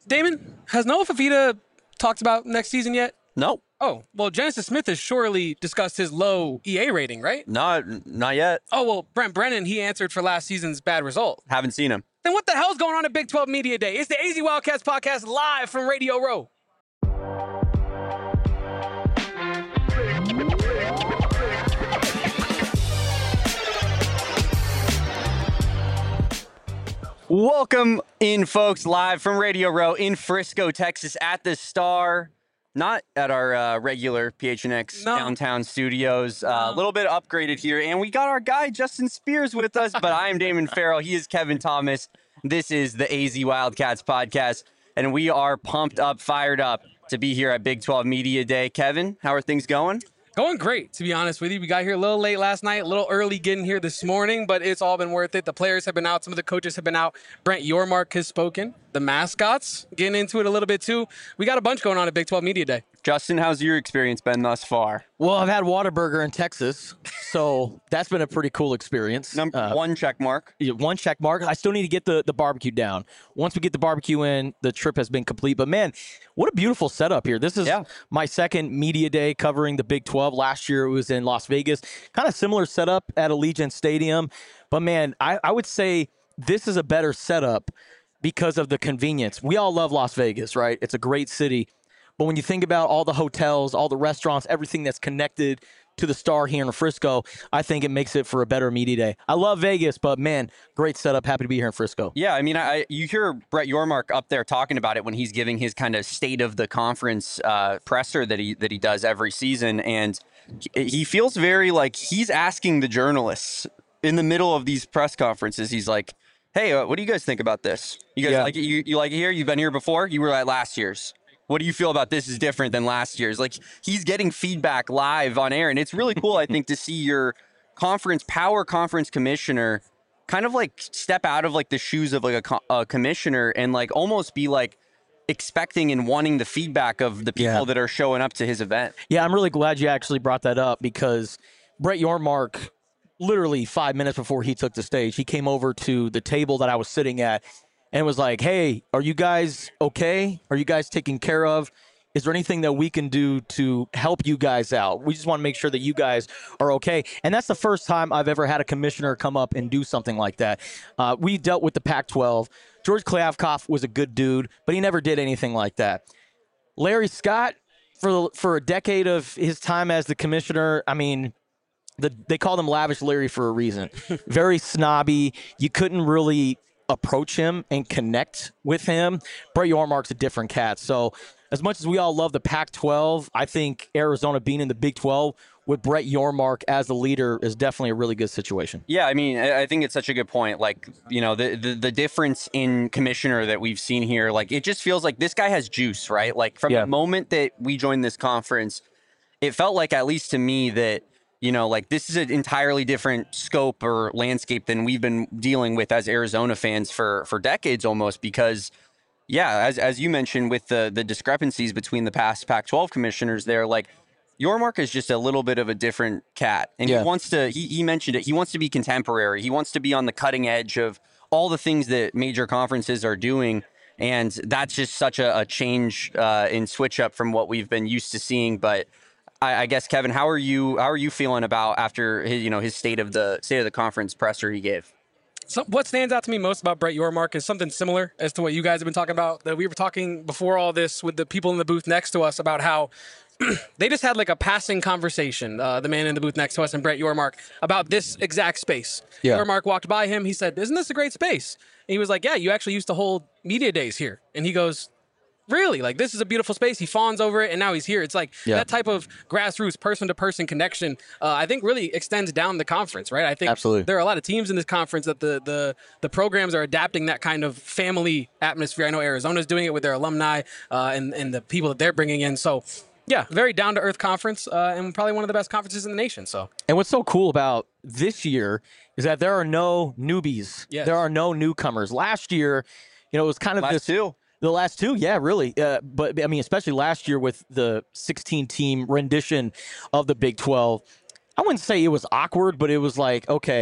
Damon, has Noah Fafita talked about next season yet? No, Oh, well, Genesis Smith has surely discussed his low EA rating, right? not yet. Oh, well, Brent Brennan, he answered for last season's bad result. Haven't seen him. Then what the hell's going on at Big 12 Media Day? It's the AZ Wildcats podcast live from Radio Row. Welcome in, folks, live from Radio Row in Frisco, Texas, at the Star. Not at our regular PHNX downtown studios. A little bit upgraded here. And we got our guy, Justin Spears, with us. But I am Damon Farrell. He is Kevin Thomas. This is the AZ Wildcats podcast. And we are pumped up, fired up to be here at Big 12 Media Day. Kevin, how are things going? Going great, to be honest with you. We got here a little late last night, a little early getting here this morning, but it's all been worth it. The players have been out. Some of the coaches have been out. Brent Yormark has spoken. The mascots, getting into it a little bit too. We got a bunch going on at Big 12 Media Day. Justin, how's your experience been thus far? Well, I've had Whataburger in Texas, so that's been a pretty cool experience. One check mark. One check mark. I still need to get the barbecue down. Once we get the barbecue in, the trip has been complete. But, man, what a beautiful setup here. This is my second media day covering the Big 12. Last year it was in Las Vegas. Kind of similar setup at Allegiant Stadium. But, man, I would say this is a better setup because of the convenience. We all love Las Vegas, right? It's a great city. But when you think about all the hotels, all the restaurants, everything that's connected to the Star here in Frisco, I think it makes it for a better media day. I love Vegas, but, man, great setup. Happy to be here in Frisco. Yeah, I mean, you hear Brett Yormark up there talking about it when he's giving his kind of state of the conference presser that he does every season, and he feels very like he's asking the journalists in the middle of these press conferences. He's like, "Hey, what do you guys think about this? You guys like it? You like it here? You've been here before? You were at last year's. What do you feel about this is different than last year's?" Like, he's getting feedback live on air, and it's really cool, I think, to see your power conference commissioner kind of like step out of like the shoes of like a commissioner and like almost be like expecting and wanting the feedback of the people that are showing up to his event. Yeah, I'm really glad you actually brought that up because Brett Yormark, literally 5 minutes before he took the stage, he came over to the table that I was sitting at and was like, "Hey, are you guys okay? Are you guys taken care of? Is there anything that we can do to help you guys out? We just want to make sure that you guys are okay." And that's the first time I've ever had a commissioner come up and do something like that. We dealt with the Pac-12. George Klyavkov was a good dude, but he never did anything like that. Larry Scott, for a decade of his time as the commissioner, I mean, they called him Lavish Larry for a reason. Very snobby. You couldn't really approach him and connect with him. Brett Yormark's a different cat. So as much as we all love the Pac-12, I think Arizona being in the Big 12 with Brett Yormark as the leader is definitely a really good situation. Yeah, I mean, I think it's such a good point. Like, you know, the difference in commissioner that we've seen here, like, it just feels like this guy has juice, right? Like, from the moment that we joined this conference, it felt like, at least to me, that, you know, like, this is an entirely different scope or landscape than we've been dealing with as Arizona fans for decades almost, because, yeah, as you mentioned with the discrepancies between the past Pac-12 commissioners there, like, Yormark is just a little bit of a different cat. And he wants to, he mentioned it, he wants to be contemporary. He wants to be on the cutting edge of all the things that major conferences are doing. And that's just such a change in switch up from what we've been used to seeing. But I guess, Kevin, how are you feeling about after his state of the conference presser he gave? So what stands out to me most about Brett Yormark is something similar as to what you guys have been talking about. That we were talking before all this with the people in the booth next to us about how they just had like a passing conversation, the man in the booth next to us and Brett Yormark, about this exact space. Yormark walked by him. He said, "Isn't this a great space?" And he was like, "Yeah, you actually used to hold media days here." And he goes, "Really? Like, this is a beautiful space." He fawns over it, and now he's here. It's like that type of grassroots, person-to-person connection, I think really extends down the conference, right? I think there are a lot of teams in this conference that the programs are adapting that kind of family atmosphere. I know Arizona's doing it with their alumni and the people that they're bringing in. So, yeah, very down-to-earth conference and probably one of the best conferences in the nation. So, and what's so cool about this year is that there are no newbies. There are no newcomers. Last year, it was kind of The last two, yeah, really. But, I mean, especially last year with the 16-team rendition of the Big 12, I wouldn't say it was awkward, but it was like, okay,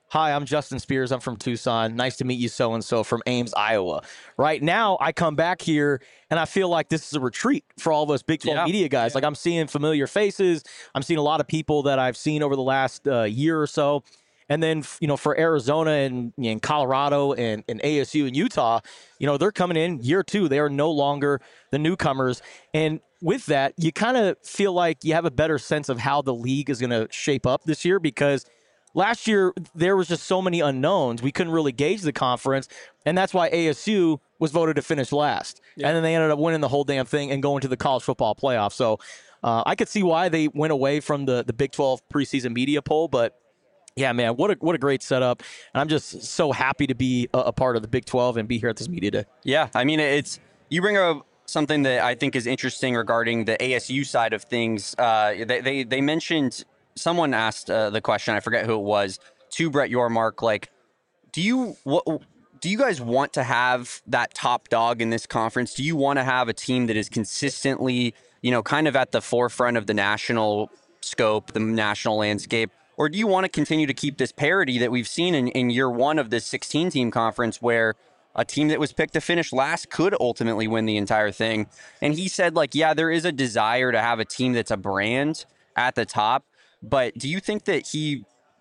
hi, I'm Justin Spears. I'm from Tucson. Nice to meet you, so-and-so from Ames, Iowa. Right now, I come back here, and I feel like this is a retreat for all of us Big 12 media guys. Like, I'm seeing familiar faces. I'm seeing a lot of people that I've seen over the last year or so. And then, for Arizona and Colorado and ASU and Utah, they're coming in year 2. They are no longer the newcomers. And with that, you kind of feel like you have a better sense of how the league is going to shape up this year, because last year there was just so many unknowns. We couldn't really gauge the conference, and that's why ASU was voted to finish last. Yeah. And then they ended up winning the whole damn thing and going to the college football playoff. So I could see why they went away from the Big 12 preseason media poll, but yeah, man, what a great setup. And I'm just so happy to be a part of the Big 12 and be here at this media day. Yeah, I mean, you bring up something that I think is interesting regarding the ASU side of things. They mentioned, someone asked the question, I forget who it was, to Brett Yormark, like, do you guys want to have that top dog in this conference? Do you want to have a team that is consistently, kind of at the forefront of the national scope, the national landscape? Or do you want to continue to keep this parity that we've seen in year 1 of this 16-team conference, where a team that was picked to finish last could ultimately win the entire thing? And he said, like, yeah, there is a desire to have a team that's a brand at the top, but do you think that he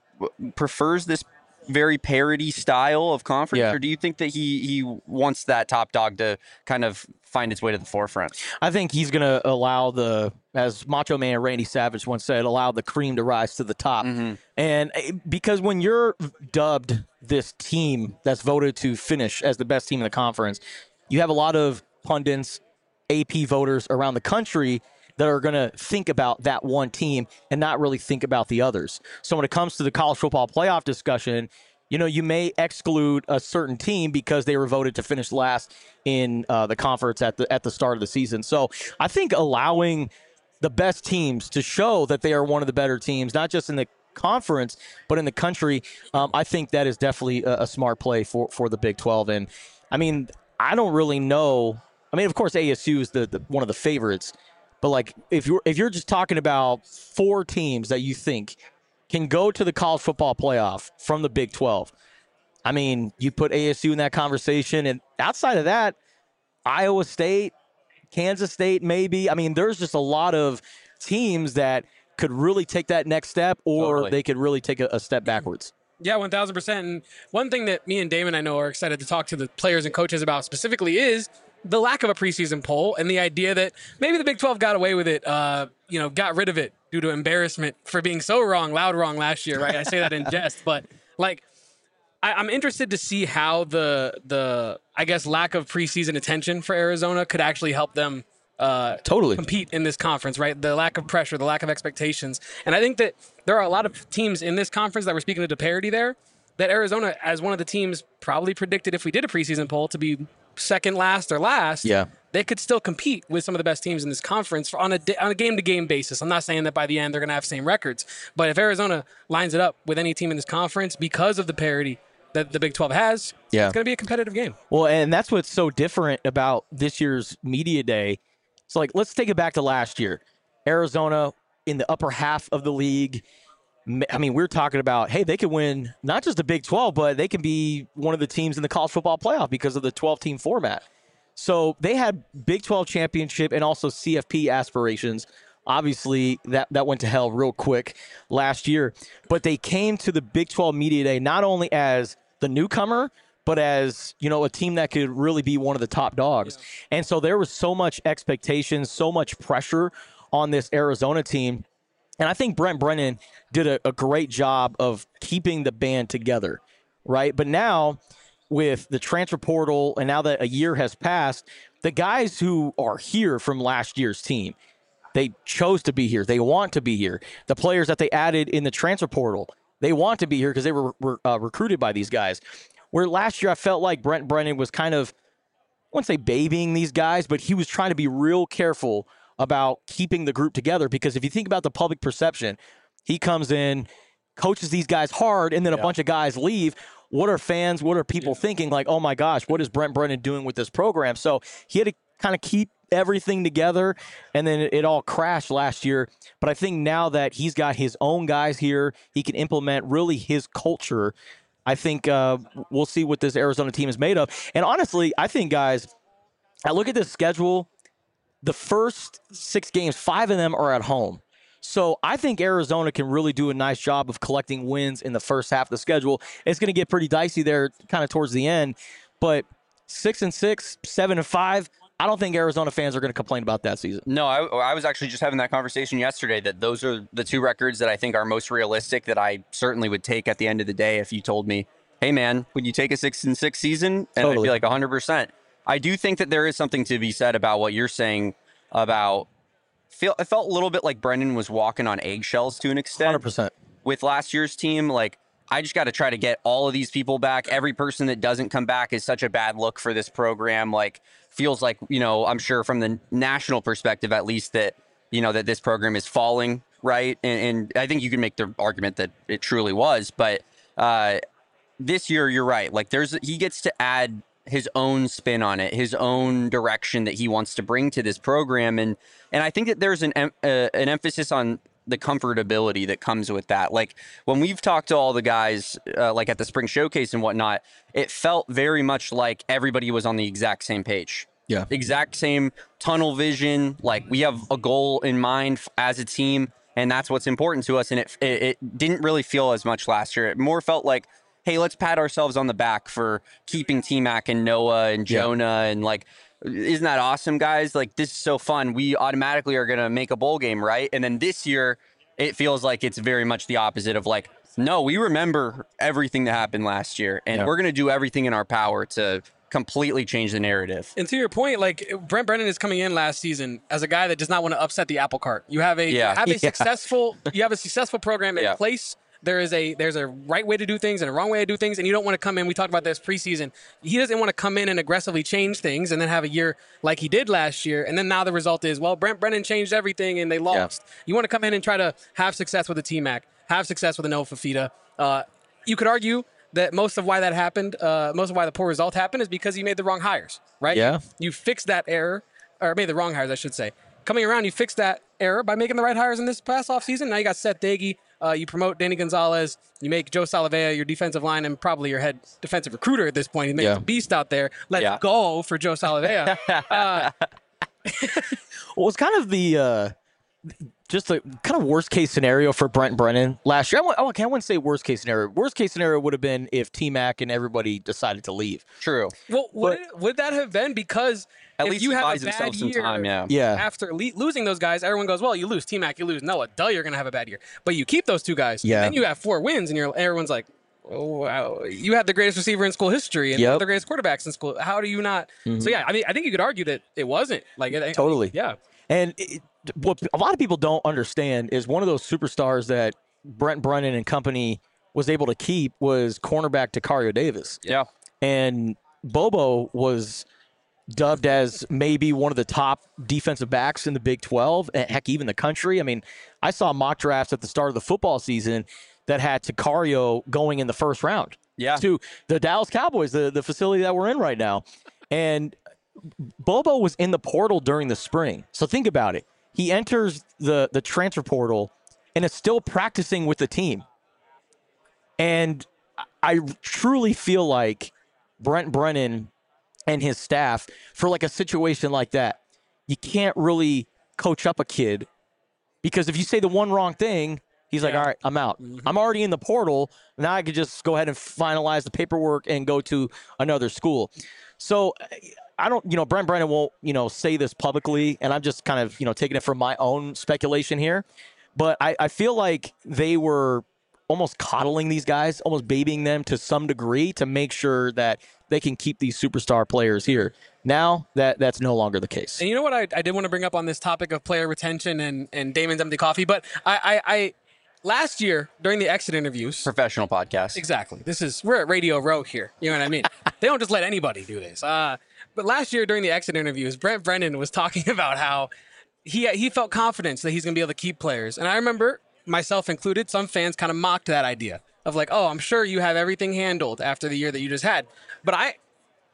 prefers this very parity style of conference, or do you think that he wants that top dog to kind of find its way to the forefront? I think he's going to allow as Macho Man Randy Savage once said, allow the cream to rise to the top. Mm-hmm. And because when you're dubbed this team that's voted to finish as the best team in the conference, you have a lot of pundits, AP voters around the country that are going to think about that one team and not really think about the others. So when it comes to the college football playoff discussion, you may exclude a certain team because they were voted to finish last in the conference at the start of the season. So I think allowing the best teams to show that they are one of the better teams, not just in the conference, but in the country, I think that is definitely a smart play for the Big 12. And, I mean, I don't really know. I mean, of course, ASU is the one of the favorites. But, like, if you're just talking about 4 teams that you think can go to the college football playoff from the Big 12, I mean, you put ASU in that conversation. And outside of that, Iowa State, Kansas State, maybe. I mean, there's just a lot of teams that could really take that next step, or they could really take a step backwards. Yeah, 1,000%. And one thing that me and Damon, I know, are excited to talk to the players and coaches about specifically is the lack of a preseason poll and the idea that maybe the Big 12 got away with it, got rid of it due to embarrassment for being so loud wrong last year, right? I say that in jest, but like, I'm interested to see how the I guess lack of preseason attention for Arizona could actually help them totally compete in this conference, right? The lack of pressure, the lack of expectations. And I think that there are a lot of teams in this conference that were speaking to the parity there, that Arizona, as one of the teams, probably predicted if we did a preseason poll to be second last or last, they could still compete with some of the best teams in this conference on a game-to-game basis. I'm not saying that by the end they're going to have same records, but if Arizona lines it up with any team in this conference because of the parity that the Big 12 has, it's going to be a competitive game. Well, and that's what's so different about this year's media day. So, like, let's take it back to last year. Arizona in the upper half of the league. I mean, we're talking about, hey, they could win not just the Big 12, but they can be one of the teams in the college football playoff because of the 12-team format. So they had Big 12 championship and also CFP aspirations. Obviously, that went to hell real quick last year. But they came to the Big 12 Media Day not only as the newcomer, but as, a team that could really be one of the top dogs. Yeah. And so there was so much expectation, so much pressure on this Arizona team. And I think Brent Brennan did a great job of keeping the band together, right? But now with the transfer portal and now that a year has passed, the guys who are here from last year's team, they chose to be here. They want to be here. The players that they added in the transfer portal, they want to be here because they were recruited by these guys. Where last year I felt like Brent Brennan was kind of, I wouldn't say babying these guys, but he was trying to be real careful about keeping the group together, because if you think about the public perception, he comes in, coaches these guys hard, and then a bunch of guys leave. What are fans, what are people thinking? Like, oh my gosh, what is Brent Brennan doing with this program? So he had to kind of keep everything together, and then it all crashed last year. But I think now that he's got his own guys here, he can implement really his culture. I think we'll see what this Arizona team is made of. And honestly, I think, guys, I look at this schedule. The first 6 games, 5 of them are at home. So I think Arizona can really do a nice job of collecting wins in the first half of the schedule. It's going to get pretty dicey there kind of towards the end. But 6-6, 7-5, I don't think Arizona fans are going to complain about that season. No, I was actually just having that conversation yesterday that those are the 2 records that I think are most realistic that I certainly would take at the end of the day if you told me, hey, man, would you take a 6-6 season? And Totally. I'd be like 100%. I do think that there is something to be said about what you're saying about it felt a little bit like Brendan was walking on eggshells to an extent 100%. with last year's team. Like, I just got to try to get all of these people back. Every person that doesn't come back is such a bad look for this program. Like, feels like, I'm sure from the national perspective, at least, that, that this program is falling, right? And I think you can make the argument that it truly was. But this year, you're right. Like, he gets to add his own spin on it, his own direction that he wants to bring to this program. And I think that there's an emphasis on the comfortability that comes with that. Like, when we've talked to all the guys, like at the spring showcase and whatnot, it felt very much like everybody was on the exact same page. Yeah. Exact same tunnel vision. Like, we have a goal in mind as a team, and that's what's important to us. And it didn't really feel as much last year. It more felt like, hey, let's pat ourselves on the back for keeping T-Mac and Noah and Jonah. And like, isn't that awesome, guys? Like, this is so fun. We automatically are going to make a bowl game, right? And then this year, it feels like it's very much the opposite of like, no, we remember everything that happened last year, and we're going to do everything in our power to completely change the narrative. And to your point, like, Brent Brennan is coming in last season as a guy that does not want to upset the apple cart. You have a successful program in place. There's a right way to do things and a wrong way to do things, and you don't want to come in. We talked about this preseason. He doesn't want to come in and aggressively change things and then have a year like he did last year. And then now the result is, well, Brent Brennan changed everything and they lost. Yeah. You want to come in and try to have success with a T-Mac, have success with a Noah Fifita. You could argue that most of why that happened, most of why the poor result happened is because you made the wrong hires, right? Yeah. You fixed that error, or made the wrong hires, I should say. Coming around, you fixed that error by making the right hires in this past offseason. Now you got Seth Dagey. You promote Danny Gonzalez. You make Joe Salavea your defensive line and probably your head defensive recruiter at this point. He makes a beast out there. Let's go for Joe Salavea. Well, it's kind of the just a kind of worst case scenario for Brent Brennan last year. I wouldn't say worst case scenario. Worst case scenario would have been if T-Mac and everybody decided to leave. True. Well, would that have been because at if least you have buys a bad himself some year time, after losing those guys, everyone goes, well, you lose T-Mac, you lose Noah. Duh, you're going to have a bad year. But you keep those 2 guys, and then you have 4 wins, and everyone's like, oh, wow, you had the greatest receiver in school history and one of the greatest quarterbacks in school. How do you not? So, yeah, I mean, I think you could argue that it wasn't. Totally. Yeah. And what a lot of people don't understand is one of those superstars that Brent Brennan and company was able to keep was cornerback Tacario Davis. Yeah. And Bobo was dubbed as maybe one of the top defensive backs in the Big 12, and heck, even the country. I mean, I saw mock drafts at the start of the football season that had Tacario going in the first round to the Dallas Cowboys, the facility that we're in right now. And Bobo was in the portal during the spring. So think about it. He enters the transfer portal and is still practicing with the team. And I truly feel like Brent Brennan and his staff, for like a situation like that, you can't really coach up a kid, because if you say the one wrong thing, he's like, all right, I'm out. I'm already in the portal. Now I could just go ahead and finalize the paperwork and go to another school. So I don't, Brent Brennan won't, say this publicly, and I'm just kind of, taking it from my own speculation here. But I feel like they were almost coddling these guys, almost babying them to some degree to make sure that they can keep these superstar players here. Now that's no longer the case. And you know what I did want to bring up on this topic of player retention and Damon's Empty Coffee, but I last year during the exit interviews, professional podcast. Exactly. We're at Radio Row here. You know what I mean? They don't just let anybody do this. But last year during the exit interviews, Brent Brennan was talking about how he felt confidence that he's going to be able to keep players. And I remember, myself included, some fans kind of mocked that idea of like, oh, I'm sure you have everything handled after the year that you just had. But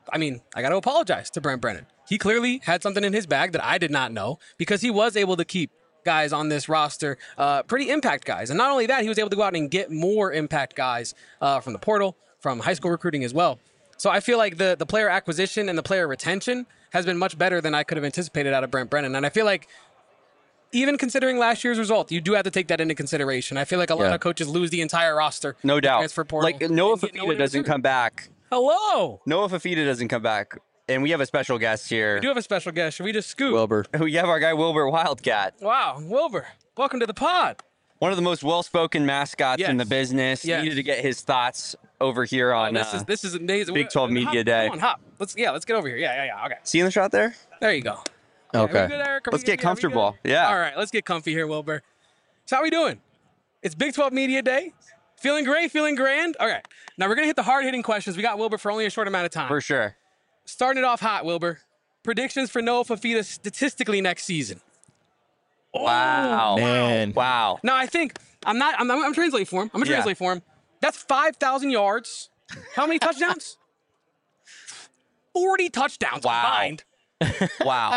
I mean, I got to apologize to Brent Brennan. He clearly had something in his bag that I did not know because he was able to keep guys on this roster, pretty impact guys. And not only that, he was able to go out and get more impact guys from the portal, from high school recruiting as well. So I feel like the player acquisition and the player retention has been much better than I could have anticipated out of Brent Brennan. And I feel like even considering last year's result, you do have to take that into consideration. I feel like a lot of coaches lose the entire roster. No doubt. Transfer portal. Like Noah Fafita doesn't come back. Hello. Noah Fafita doesn't come back. And we have a special guest here. We do have a special guest. Should we just scoot? Wilbur. We have our guy Wilbur Wildcat. Wow, Wilbur. Welcome to the pod. One of the most well-spoken mascots in the business. Yes. Needed to get his thoughts over here on This is amazing. Big 12 Media Day. Come on, hop. Let's get over here. Yeah. Okay. See in the shot there? There you go. Okay. Are we good, Eric? Let's get comfortable. Good? Yeah. All right, let's get comfy here, Wilbur. So how we doing? It's Big 12 Media Day. Feeling great, feeling grand? All right. Now we're going to hit the hard-hitting questions. We got Wilbur for only a short amount of time. For sure. Starting it off hot, Wilbur. Predictions for Noah Fafita statistically next season. Wow. Man. Wow. Now I think I'm translating for him. I'm gonna translate for him. That's 5,000 yards. How many touchdowns? 40 touchdowns Wow. combined. Wow.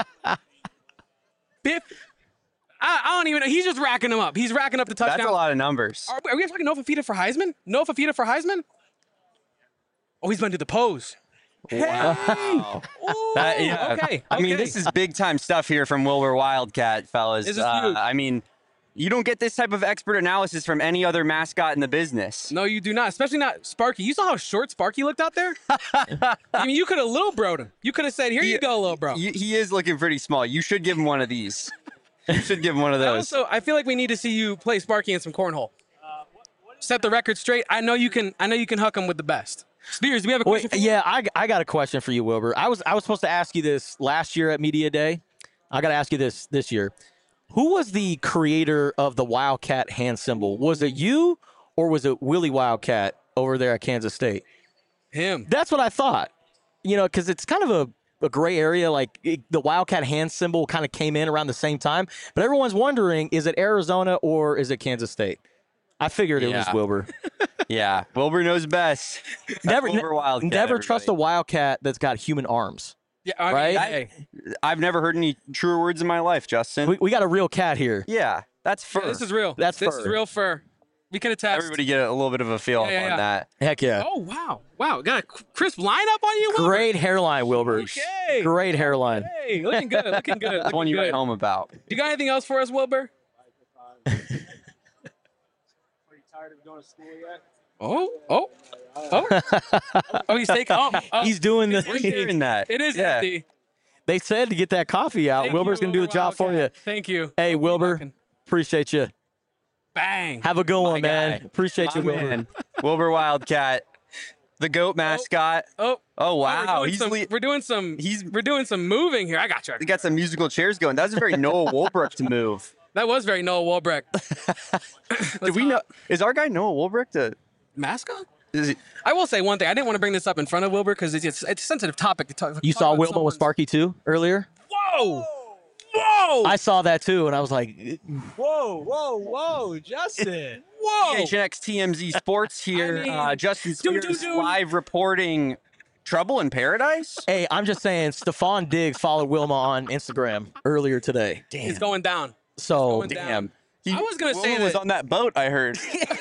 I don't even know. He's just racking them up. He's racking up the touchdowns. That's a lot of numbers. Are we talking Noah Fafita for Heisman? Noah Fafita for Heisman? Oh, he's gonna do the pose. Wow. Ooh, Yeah. okay. I mean, this is big time stuff here from Wilbur Wildcat, fellas. This is huge. I mean, you don't get this type of expert analysis from any other mascot in the business. No, you do not. Especially not Sparky. You saw how short Sparky looked out there? I mean, you could have little broed him. You could have said, here you go, little bro. He is looking pretty small. You should give him one of these. You should give him one of those. Also, I feel like we need to see you play Sparky in some cornhole. Set the record straight. I know you can huck him with the best. Spears, do we have a question? Wait, yeah, I got a question for you, Wilbur. I was supposed to ask you this last year at Media Day. I got to ask you this year. Who was the creator of the Wildcat hand symbol? Was it you or was it Willie Wildcat over there at Kansas State? Him. That's what I thought. You know, because it's kind of a gray area. Like the Wildcat hand symbol kind of came in around the same time. But everyone's wondering, is it Arizona or is it Kansas State? I figured it was Wilbur. Yeah, Wilbur knows best. Never Wildcat, trust a Wildcat that's got human arms. Yeah, I mean, Right? hey, I've never heard any truer words in my life, Justin. We got a real cat here. Yeah, that's fur. this is real. That's this fur. is real fur. We can attest. Everybody get a little bit of a feel Yeah. on that. Heck yeah. Oh wow! Got a crisp lineup on you. Wilbur? Great hairline, Wilbur. Okay. Great hairline. Hey, looking good. Looking good. That's one you write home about. You got anything else for us, Wilbur? Are you tired of going to school yet? Oh, he's taking. Oh, He's doing We're the. hearing that. it is Yeah. empty. They said to get that coffee out. Thank Wilbur's you, gonna do the Wilbur job for you. Wildcat. Thank you. Hey, Wilbur, Rocking. appreciate you. Bang. Have a good one, man. guy. Appreciate you, My Wilbur. man, Wilbur Wildcat, the goat mascot. Oh wow, we're doing some moving here. I got you. He got some musical chairs going. That was a very Noah Wolbrecht to move. That was very Noah Walbrecht. Did we know? Is our guy Noah Wolbrecht a? Mascot? Is he, I will say one thing. I didn't want to bring this up in front of Wilbur because it's a sensitive topic to talk. You talk saw about Wilma with someone's- Sparky too earlier. Whoa! I saw that too, and I was like, Whoa, Justin. Whoa! PHNX TMZ Sports here. I mean, Justin Spears dude. live reporting trouble in paradise. "Hey, I'm just saying." Stephon Diggs followed Wilma on Instagram earlier today. It's going down. So going down. Damn. I was gonna say Wilma was that- on that boat. I heard.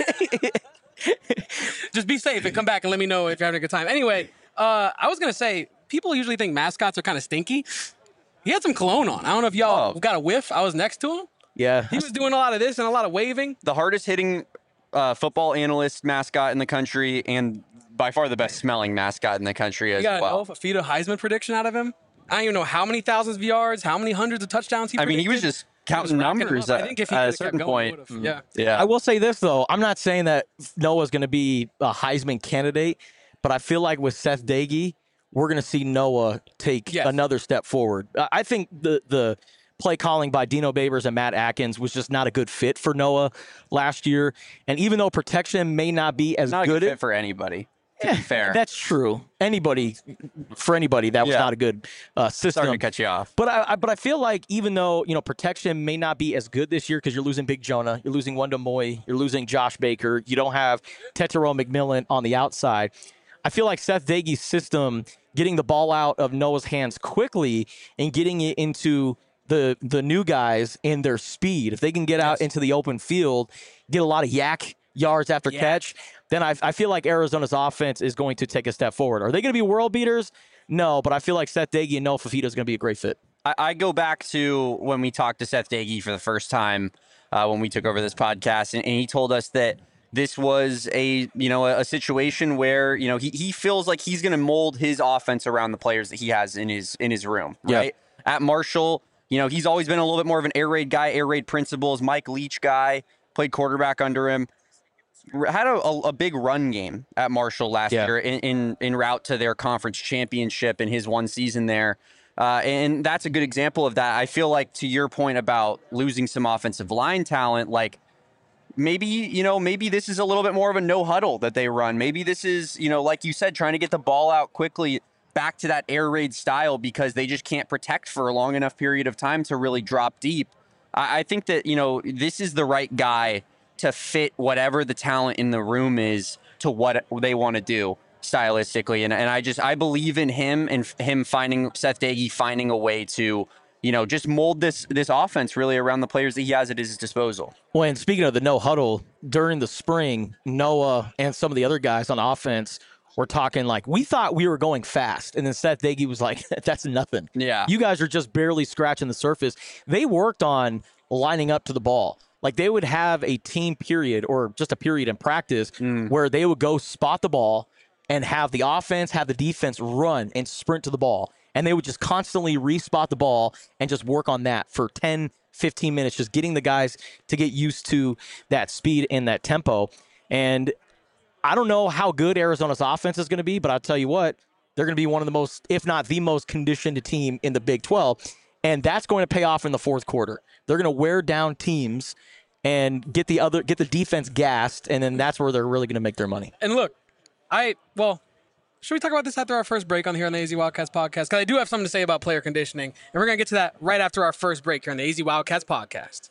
Just be safe and come back and let me know if you're having a good time. Anyway, I was gonna say people usually think mascots are kind of stinky. He had some cologne on. I don't know if y'all got a whiff. I was next to him. yeah, He was doing a lot of this and a lot of waving. The hardest hitting football analyst mascot in the country, and by far the best smelling mascot in the country You as got well. a Fafita Heisman prediction out of him. I don't even know how many thousands of yards, how many hundreds of touchdowns he I mean, he was predicted. just counting racking them numbers up. I at, think if he at a could've certain kept going, he point. would've. Yeah. Yeah. I will say this though. I'm not saying that Noah's going to be a Heisman candidate, but I feel like with Seth Dagey, we're going to see Noah take Yes. another step forward. I think the play calling by Dino Babers and Matt Atkins was just not a good fit for Noah last year. And even though protection may not be as Not a good, good fit for anybody. To be fair. that's true. For anybody, that was Yeah. not a good system. Sorry to cut you off. But I feel like even though protection may not be as good this year because you're losing Big Jonah, you're losing Wanda Moy, you're losing Josh Baker, you don't have Tetero McMillan on the outside. I feel like Seth Dagey's system getting the ball out of Noah's hands quickly and getting it into the new guys in their speed. If they can get out into the open field, get a lot of yak yards after catch, then I feel like Arizona's offense is going to take a step forward. Are they going to be world beaters? No, but I feel like Seth Doege and Noah Fifita is going to be a great fit. I go back to when we talked to Seth Doege for the first time when we took over this podcast, and he told us that this was a situation where he feels like he's going to mold his offense around the players that he has in his room. Right at Marshall, he's always been a little bit more of an air raid guy, air raid principles. Mike Leach guy, played quarterback under him. Had a big run game at Marshall last year in route to their conference championship in his one season there. And that's a good example of that. I feel like, to your point about losing some offensive line talent, like maybe this is a little bit more of a no huddle that they run. Maybe this is, like you said, trying to get the ball out quickly back to that air raid style because they just can't protect for a long enough period of time to really drop deep. I think that, this is the right guy to fit whatever the talent in the room is to what they want to do stylistically. And I believe in him and him Seth Doege finding a way to, just mold this offense really around the players that he has at his disposal. Well, and speaking of the no huddle, during the spring, Noah and some of the other guys on offense were talking like, we thought we were going fast. And then Seth Doege was like, that's nothing. Yeah. You guys are just barely scratching the surface. They worked on lining up to the ball. Like they would have a team period or just a period in practice where they would go spot the ball and have the offense, have the defense run and sprint to the ball. And they would just constantly respot the ball and just work on that for 10, 15 minutes, just getting the guys to get used to that speed and that tempo. And I don't know how good Arizona's offense is going to be, but I'll tell you what, they're going to be one of the most, if not the most conditioned team in the Big 12. And that's going to pay off in the fourth quarter. They're going to wear down teams and get the defense gassed, and then that's where they're really going to make their money. And look, should we talk about this after our first break here on the AZ Wildcats podcast? Because I do have something to say about player conditioning, and we're going to get to that right after our first break here on the AZ Wildcats podcast.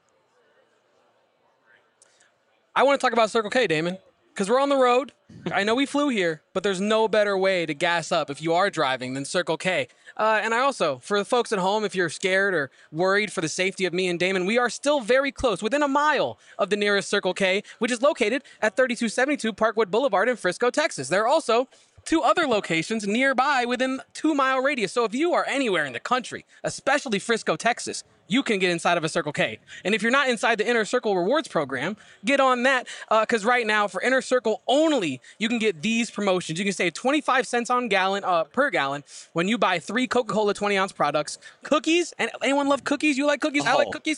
I want to talk about Circle K, Damon, because we're on the road. I know we flew here, but there's no better way to gas up if you are driving than Circle K. And I also, for the folks at home, if you're scared or worried for the safety of me and Damon, we are still very close, within a mile of the nearest Circle K, which is located at 3272 Parkwood Boulevard in Frisco, Texas. There are also 2 other locations nearby within 2-mile radius. So if you are anywhere in the country, especially Frisco, Texas, you can get inside of a Circle K. And if you're not inside the Inner Circle Rewards program, get on that, because right now for Inner Circle only, you can get these promotions. You can save 25 cents per gallon when you buy 3 Coca-Cola 20-ounce products. Cookies, and anyone love cookies? You like cookies? I like cookies.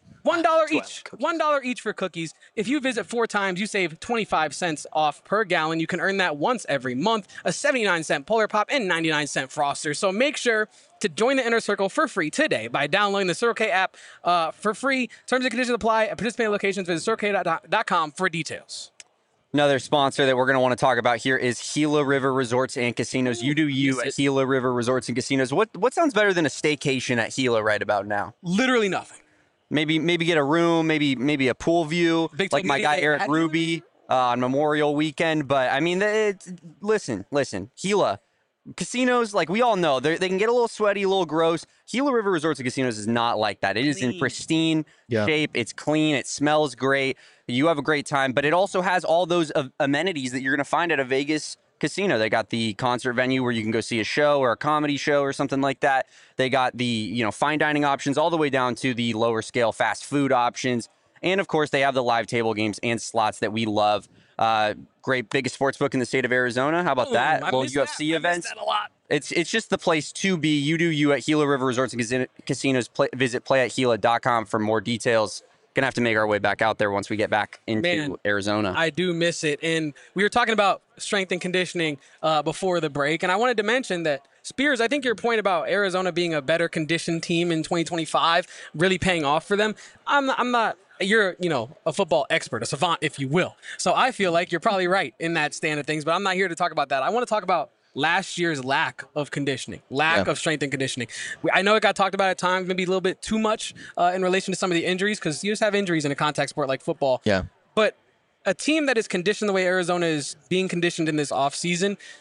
$1 each. $1 each for cookies. If you visit 4 times, you save 25 cents off per gallon. You can earn that once every month. A 79-cent Polar Pop and 99-cent Froster. So make sure to join the Inner Circle for free today by downloading the Circle K app for free. Terms and conditions apply at participating locations. Visit CircleK.com for details. Another sponsor that we're going to want to talk about here is Gila River Resorts and Casinos. You do you at Gila River Resorts and Casinos. What sounds better than a staycation at Gila right about now? Literally nothing. Maybe get a room, maybe a pool view, like my guy Eric Ruby on Memorial Weekend. But I mean, listen, Gila casinos, like we all know, they can get a little sweaty, a little gross. Gila River Resorts and Casinos is not like that. It is in pristine shape. It's clean. It smells great. You have a great time, but it also has all those amenities that you're going to find at a Vegas casino. They got the concert venue where you can go see a show or a comedy show or something like that. They got the, fine dining options all the way down to the lower scale fast food options. And of course, they have the live table games and slots that we love. Great, biggest sports book in the state of Arizona. How about that? Little UFC events. I miss that a lot. It's just the place to be. You do you at Gila River Resorts and Casinos. Visit playatgila.com for more details. Gonna have to make our way back out there once we get back into Arizona. I do miss it. And we were talking about strength and conditioning before the break, and I wanted to mention that Spears, I think your point about Arizona being a better conditioned team in 2025 really paying off for them. I'm not. You're, a football expert, a savant, if you will. So I feel like you're probably right in that stand of things, but I'm not here to talk about that. I want to talk about last year's lack of conditioning, lack of strength and conditioning. I know it got talked about at times, maybe a little bit too much in relation to some of the injuries, because you just have injuries in a contact sport like football. Yeah. But a team that is conditioned the way Arizona is being conditioned in this offseason,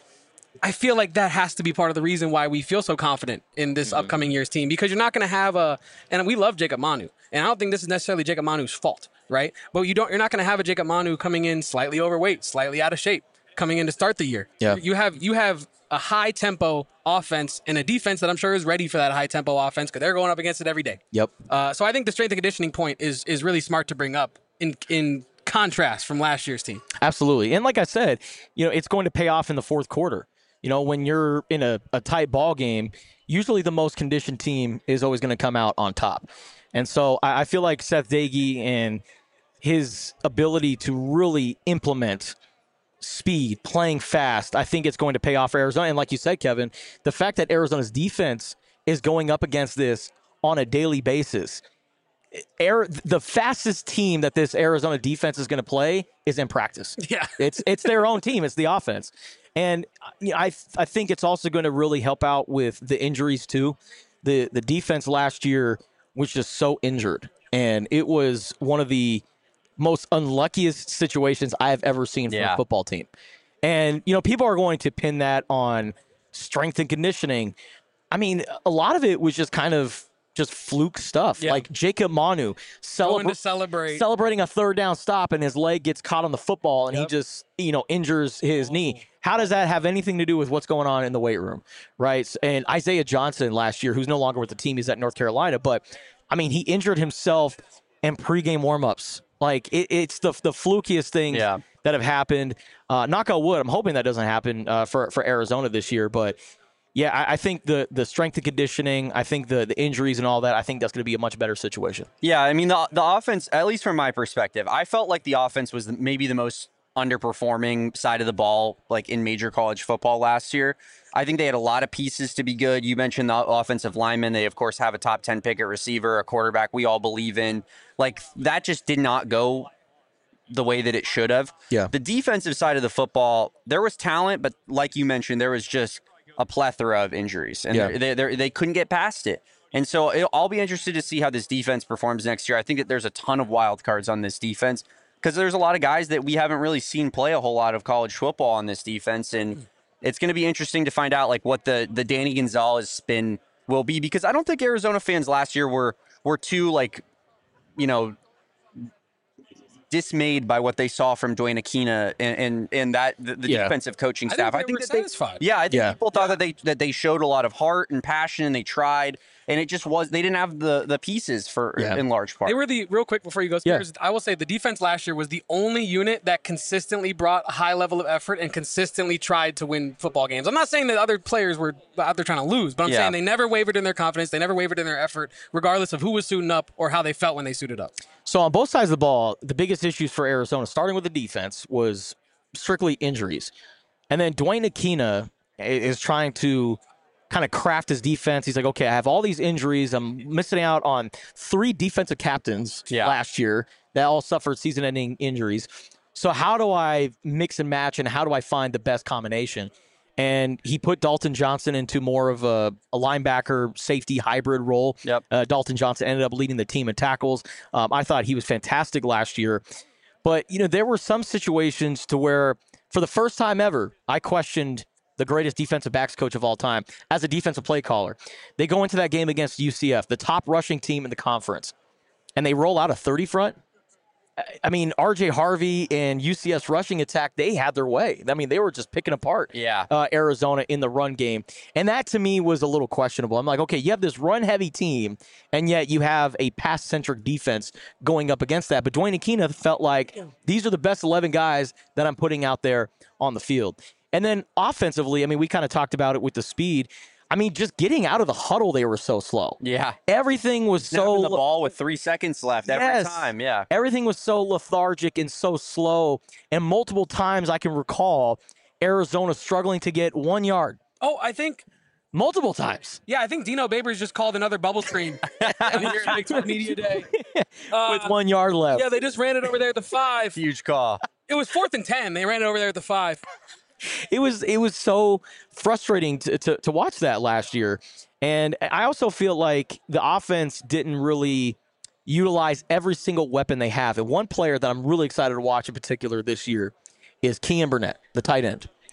I feel like that has to be part of the reason why we feel so confident in this upcoming year's team, because you're not going to have and we love Jacob Manu, and I don't think this is necessarily Jacob Manu's fault, right? But you're not going to have a Jacob Manu coming in slightly overweight, slightly out of shape, coming in to start the year. Yeah. You have a high tempo offense and a defense that I'm sure is ready for that high tempo offense because they're going up against it every day. Yep. So I think the strength and conditioning point is really smart to bring up in contrast from last year's team. Absolutely. And like I said, it's going to pay off in the fourth quarter. When you're in a tight ball game, usually the most conditioned team is always going to come out on top. And so I feel like Seth Doege and his ability to really implement speed, playing fast, I think it's going to pay off for Arizona. And like you said, Kevin, the fact that Arizona's defense is going up against this on a daily basis, the fastest team that this Arizona defense is going to play is in practice. Yeah. It's their own team. It's the offense. And I think it's also going to really help out with the injuries too. The defense last year was just so injured, and it was one of the most unluckiest situations I have ever seen from a football team. And, people are going to pin that on strength and conditioning. I mean, a lot of it was just kind of just fluke stuff. Yeah. Like Jacob Manu celebrating a third down stop, and his leg gets caught on the football, and he just, injures his knee. How does that have anything to do with what's going on in the weight room, right? And Isaiah Johnson last year, who's no longer with the team, he's at North Carolina, but, I mean, he injured himself in pregame warmups. Like, it's the flukiest things that have happened. Knock on wood, I'm hoping that doesn't happen for Arizona this year, but yeah, I think the strength and conditioning, I think the injuries and all that, I think that's going to be a much better situation. Yeah, I mean, the offense, at least from my perspective, I felt like the offense was maybe the most underperforming side of the ball, like in major college football last year. I think they had a lot of pieces to be good. You mentioned the offensive linemen. They, of course, have a top 10 pick at receiver, a quarterback we all believe in. Like, that just did not go the way that it should have. Yeah. The defensive side of the football, there was talent, but like you mentioned, there was just a plethora of injuries, and they couldn't get past it. And so I'll be interested to see how this defense performs next year. I think that there's a ton of wild cards on this defense because there's a lot of guys that we haven't really seen play a whole lot of college football on this defense, and it's going to be interesting to find out like what the Danny Gonzalez spin will be, because I don't think Arizona fans last year were too dismayed by what they saw from Dwayne Aquina and that the defensive coaching staff. I think they were satisfied. I think people thought that they showed a lot of heart and passion, and they tried, and it just they didn't have the pieces for in large part. They were real quick before you go, Spears, I will say the defense last year was the only unit that consistently brought a high level of effort and consistently tried to win football games. I'm not saying that other players were out there trying to lose, but I'm saying they never wavered in their confidence. They never wavered in their effort, regardless of who was suiting up or how they felt when they suited up. So on both sides of the ball, the biggest issues for Arizona, starting with the defense, was strictly injuries. And then Dwayne Aquina is trying to kind of craft his defense. He's like, okay, I have all these injuries. I'm missing out on 3 defensive captains last year that all suffered season-ending injuries. So how do I mix and match, and how do I find the best combination? And he put Dalton Johnson into more of a linebacker safety hybrid role. Yep. Dalton Johnson ended up leading the team in tackles. I thought he was fantastic last year. But, there were some situations to where, for the first time ever, I questioned the greatest defensive backs coach of all time as a defensive play caller. They go into that game against UCF, the top rushing team in the conference, and they roll out a 30 front. I mean, R.J. Harvey and UCS rushing attack, they had their way. I mean, they were just picking apart Arizona in the run game. And that, to me, was a little questionable. I'm like, okay, you have this run-heavy team, and yet you have a pass-centric defense going up against that. But Dwayne Aquina felt like these are the best 11 guys that I'm putting out there on the field. And then offensively, I mean, we kind of talked about it with the speed. I mean, just getting out of the huddle, they were so slow. Yeah. Everything was Snapping the ball with 3 seconds left every time. Yeah. Everything was so lethargic and so slow. And multiple times I can recall Arizona struggling to get 1 yard. Oh, I think multiple times. Yeah, I think Dino Babers just called another bubble screen here at Big 12 Media Day. With 1 yard left. Yeah, they just ran it over there at the 5. Huge call. It was 4th and 10. They ran it over there at the 5. It was so frustrating to watch that last year. And I also feel like the offense didn't really utilize every single weapon they have. And one player that I'm really excited to watch in particular this year is Kean Burnett, the tight end.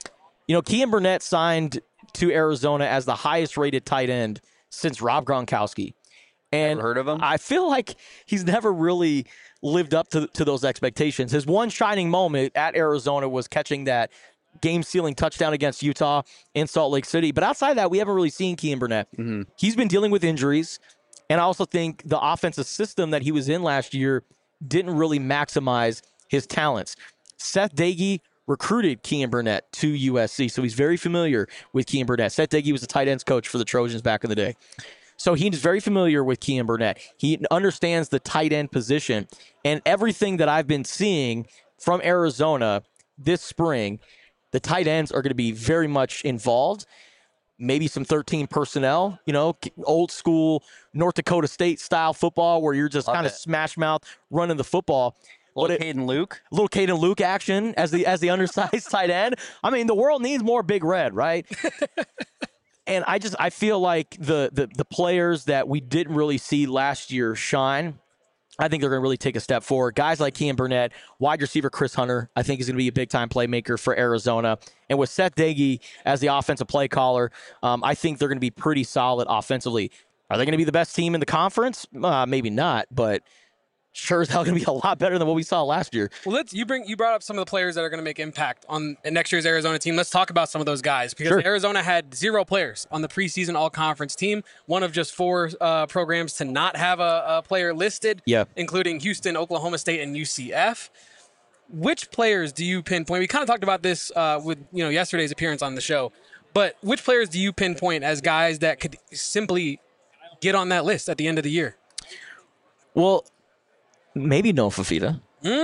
Kean Burnett signed to Arizona as the highest rated tight end since Rob Gronkowski. And Ever heard of him? I feel like he's never really lived up to those expectations. His one shining moment at Arizona was catching that game-sealing touchdown against Utah in Salt Lake City. But outside of that, we haven't really seen Kean Burnett. Mm-hmm. He's been dealing with injuries. And I also think the offensive system that he was in last year didn't really maximize his talents. Seth Dagey recruited Kean Burnett to USC, so he's very familiar with Kean Burnett. Seth Dagey was the tight ends coach for the Trojans back in the day. So he's very familiar with Kean Burnett. He understands the tight end position. And everything that I've been seeing from Arizona this spring, the tight ends are going to be very much involved. Maybe some 13 personnel, old school North Dakota State style football where you're just kind of smash mouth running the football. Little Caden Luke. Little Caden Luke action as the undersized tight end. I mean, the world needs more Big Red, right? And I feel like the players that we didn't really see last year shine, I think they're going to really take a step forward. Guys like Kean Burnett, wide receiver Chris Hunter, I think is going to be a big-time playmaker for Arizona. And with Seth Dagey as the offensive play caller, I think they're going to be pretty solid offensively. Are they going to be the best team in the conference? Maybe not, but sure as hell going to be a lot better than what we saw last year. Well, you brought up some of the players that are going to make impact on next year's Arizona team. Let's talk about some of those guys because Sure. Arizona had 0 players on the preseason all-conference team, one of just 4 programs to not have a player listed, including Houston, Oklahoma State, and UCF. Which players do you pinpoint? We kind of talked about this with yesterday's appearance on the show, but which players do you pinpoint as guys that could simply get on that list at the end of the year? Well, maybe Noah Fafita.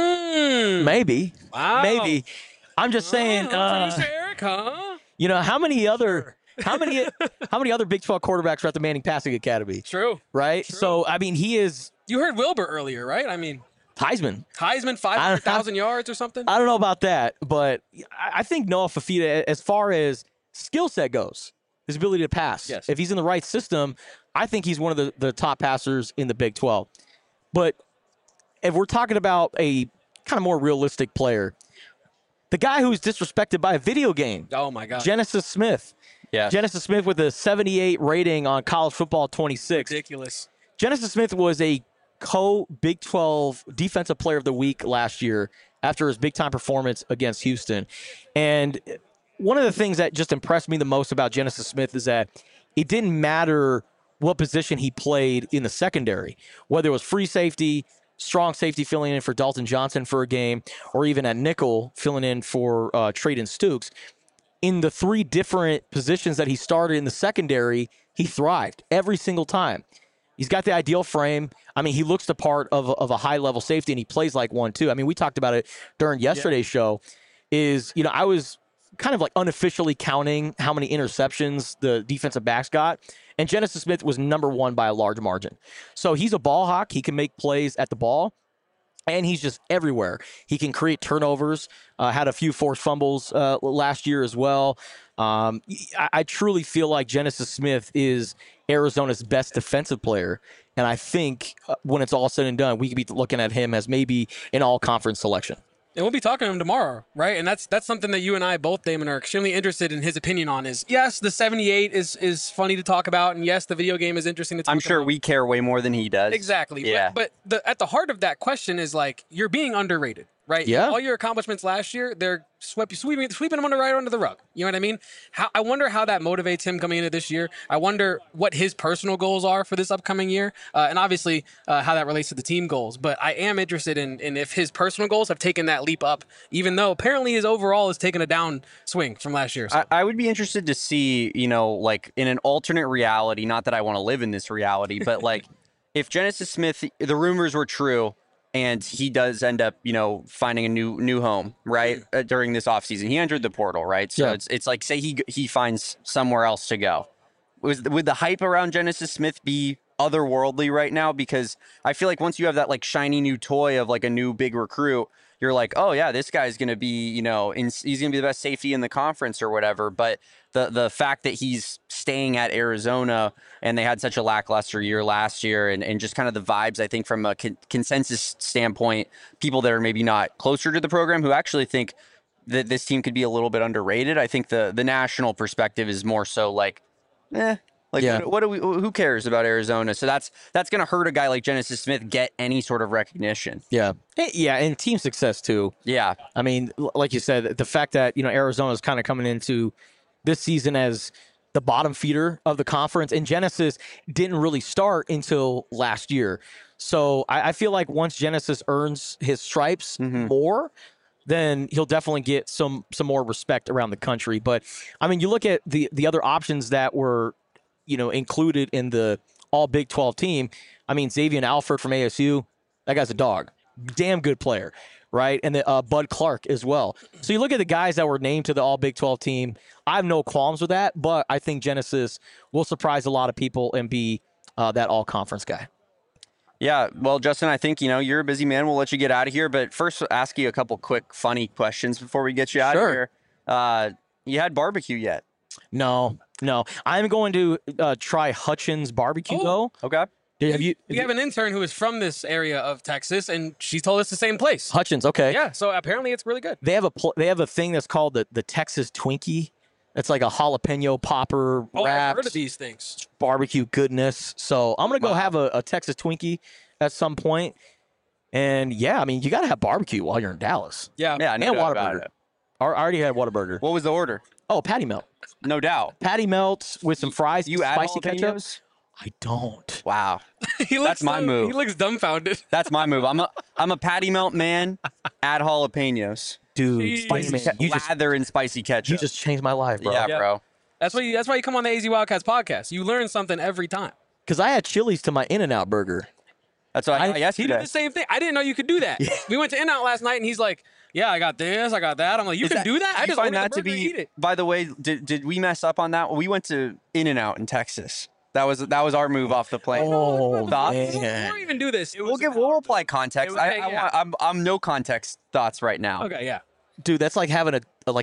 Maybe. Wow. Maybe. I'm just saying. Producer Eric, huh? How many other Big 12 quarterbacks are at the Manning Passing Academy? True. Right. True. So I mean, he is You heard Wilbur earlier, right? I mean, Heisman. 500,000 yards or something. I don't know about that, but I think Noah Fafita, as far as skill set goes, his ability to pass. Yes. If he's in the right system, I think he's one of the top passers in the Big 12. But if we're talking about a kind of more realistic player, the guy who's disrespected by a video game, Oh my God. Genesis Smith. Yeah. Genesis Smith with a 78 rating on College Football 26. Ridiculous. Genesis Smith was a co-Big 12 Defensive Player of the Week last year after his big-time performance against Houston. And one of the things that just impressed me the most about Genesis Smith is that it didn't matter what position he played in the secondary, whether it was free safety, strong safety filling in for Dalton Johnson for a game, or even at nickel filling in for Trayden Stukes. In the 3 different positions that he started in the secondary, he thrived every single time. He's got the ideal frame. I mean, he looks the part of a high-level safety, and he plays like one, too. I mean, we talked about it during yesterday's show. I was kind of like unofficially counting how many interceptions the defensive backs got, and Genesis Smith was number 1 by a large margin. So he's a ball hawk. He can make plays at the ball, and he's just everywhere. He can create turnovers, had a few forced fumbles last year as well. I truly feel like Genesis Smith is Arizona's best defensive player, and I think when it's all said and done, we could be looking at him as maybe an all-conference selection. And we'll be talking to him tomorrow, right? And that's something that you and I both, Damon, are extremely interested in his opinion on. Is yes, the 78 is funny to talk about, and yes, the video game is interesting to talk about. I'm sure we care way more than he does. Exactly. Yeah. But at the heart of that question is like you're being underrated, right? Yeah. All your accomplishments last year, they're sweeping them right under the rug. You know what I mean? I wonder how that motivates him coming into this year. I wonder what his personal goals are for this upcoming year, and obviously how that relates to the team goals. But I am interested in if his personal goals have taken that leap up, even though apparently his overall has taken a down swing from last year. So. I would be interested to see, like in an alternate reality, not that I want to live in this reality, but like if Genesis Smith, the rumors were true, and he does end up, finding a new home, right, during this offseason. He entered the portal, right? So Yeah. it's like, say he finds somewhere else to go. Would the hype around Genesis Smith be otherworldly right now? Because I feel like once you have that like shiny new toy of like a new big recruit, you're like, oh yeah, this guy's going to be, he's going to be the best safety in the conference or whatever. But the fact that he's staying at Arizona and they had such a lackluster year last year and just kind of the vibes, I think from a consensus standpoint, people that are maybe not closer to the program who actually think that this team could be a little bit underrated. I think the national perspective is more so like, Yeah. what do we? Who cares about Arizona? So that's going to hurt a guy like Genesis Smith get any sort of recognition. Yeah. Yeah, and team success too. Yeah, I mean, like you said, the fact that, Arizona's kind of coming into this season as the bottom feeder of the conference, and Genesis didn't really start until last year. So I feel like once Genesis earns his stripes more, then he'll definitely get some more respect around the country. But I mean, you look at the other options that were, included in the all Big 12 team. I mean, Xavier Alford from ASU, that guy's a dog. Damn good player, right? And the, Bud Clark as well. So you look at the guys that were named to the all Big 12 team. I have no qualms with that, but I think Genesis will surprise a lot of people and be that all conference guy. yeah. Well, Justin, I think you're a busy man. We'll let you get out of here, but first, ask you a couple quick, funny questions before we get you out of here. You had barbecue yet? No. I'm going to try Hutchins barbecue though. Okay. Have you? We have an intern who is from this area of Texas, and she told us the same place. Hutchins? Okay. Yeah, so apparently it's really good. They have a thing that's called the Texas Twinkie. It's like a jalapeno popper Oh, I've wrapped heard of these things. barbecue goodness. So I'm gonna go have a Texas Twinkie at some point. And yeah, I mean, you gotta have barbecue while you're in Dallas. Yeah. Yeah, no And doubt about Whataburger. it. I already had Whataburger. What was the order? Oh, patty melt. No doubt. Patty melt with some fries. You add spicy ketchup. jalapenos? I don't. Wow. He looks That's my move. He looks dumbfounded. That's my move. I'm a patty melt man. Add jalapenos. Dude, Jeez. man, you just Lather in spicy ketchup. changed my life, bro. yeah, Yeah. bro. That's why you come on the AZ Wildcats podcast. You learn something every time. Because I had Chili's to my In-N-Out burger. That's what I got He yesterday. did the same thing. I didn't know you could do that. We went to In-N-Out last night, and he's like, "Yeah, I got this, I got that." I'm like, "You can do that?" I You just find ordered that the to burger and eat be. it. By the way, did we mess up on that? We went to In-N-Out in Texas. That was our move off the plane. Oh, Thoughts? man. Before we even do this, We'll apply context. Okay, yeah. I'm no context thoughts right now. Okay, yeah. Dude, that's like having a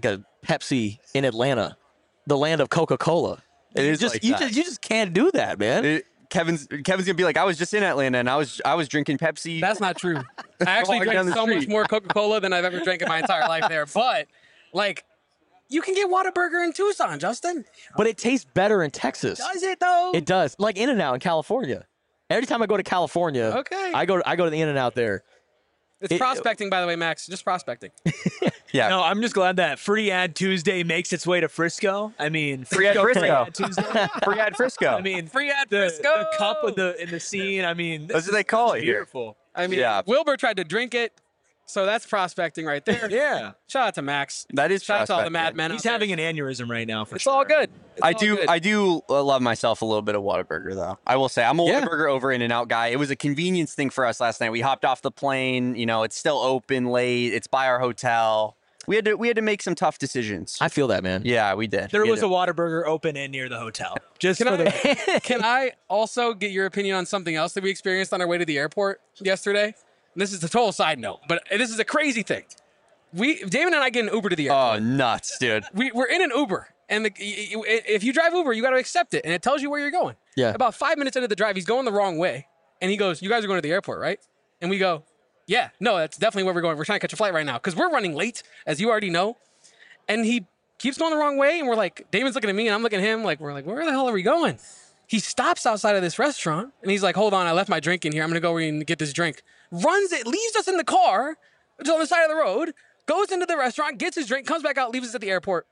Pepsi in Atlanta, the land of Coca-Cola. It is like that. you just can't do that, man. Kevin's gonna be like, I was just in Atlanta and I was drinking Pepsi. That's not true. I actually Walking down drank the so much street. more Coca-Cola than I've ever drank in my entire life there. But, like, you can get Whataburger in Tucson, Justin. But it tastes better in Texas. Does it, though? It does. Like In-N-Out in California. Every time I go to California, Okay. I go to the In-N-Out there. It's prospecting, by the way, Max. Just prospecting. yeah. No, I'm just glad that Free Ad Tuesday makes its way to Frisco. I mean, Free Ad Frisco. Free Ad Tuesday. Free ad Frisco. I mean, Free Ad the Frisco. cup of in the scene. I mean, That's what they call it here. beautiful. I mean, Yeah. Wilbur tried to drink it, so that's prospecting right there. Yeah, Shout out to Max. That is Shout out to all the prospecting. madmen. he's out there. having an aneurysm right now. For It's sure. all good. It's I all do good. I do love myself a little bit of Whataburger though. I will say I'm a Yeah. Whataburger over In-N-Out guy. It was a convenience thing for us last night. We hopped off the plane. It's still open late. It's by our hotel. We had to make some tough decisions. I feel that, man. Yeah, we did. There We was had a Whataburger open and near the hotel. Just Can for the Can I also get your opinion on something else that we experienced on our way to the airport yesterday? And this is a total side note, but this is a crazy thing. Damon and I get an Uber to the airport. Oh, nuts, dude. We're in an Uber, and if you drive Uber, you got to accept it, and it tells you where you're going. Yeah. About 5 minutes into the drive, he's going the wrong way, and he goes, "You guys are going to the airport, right?" And we go, "Yeah, no, that's definitely where we're going. We're trying to catch a flight right now because we're running late, as you already know." And he keeps going the wrong way, and we're like, Damon's looking at me, and I'm looking at him, like we're like, "Where the hell are we going?" He stops outside of this restaurant, and he's like, "Hold on, I left my drink in here. I'm gonna go and get this drink." Runs it, leaves us in the car, just on the side of the road. Goes into the restaurant, gets his drink, comes back out, leaves us at the airport.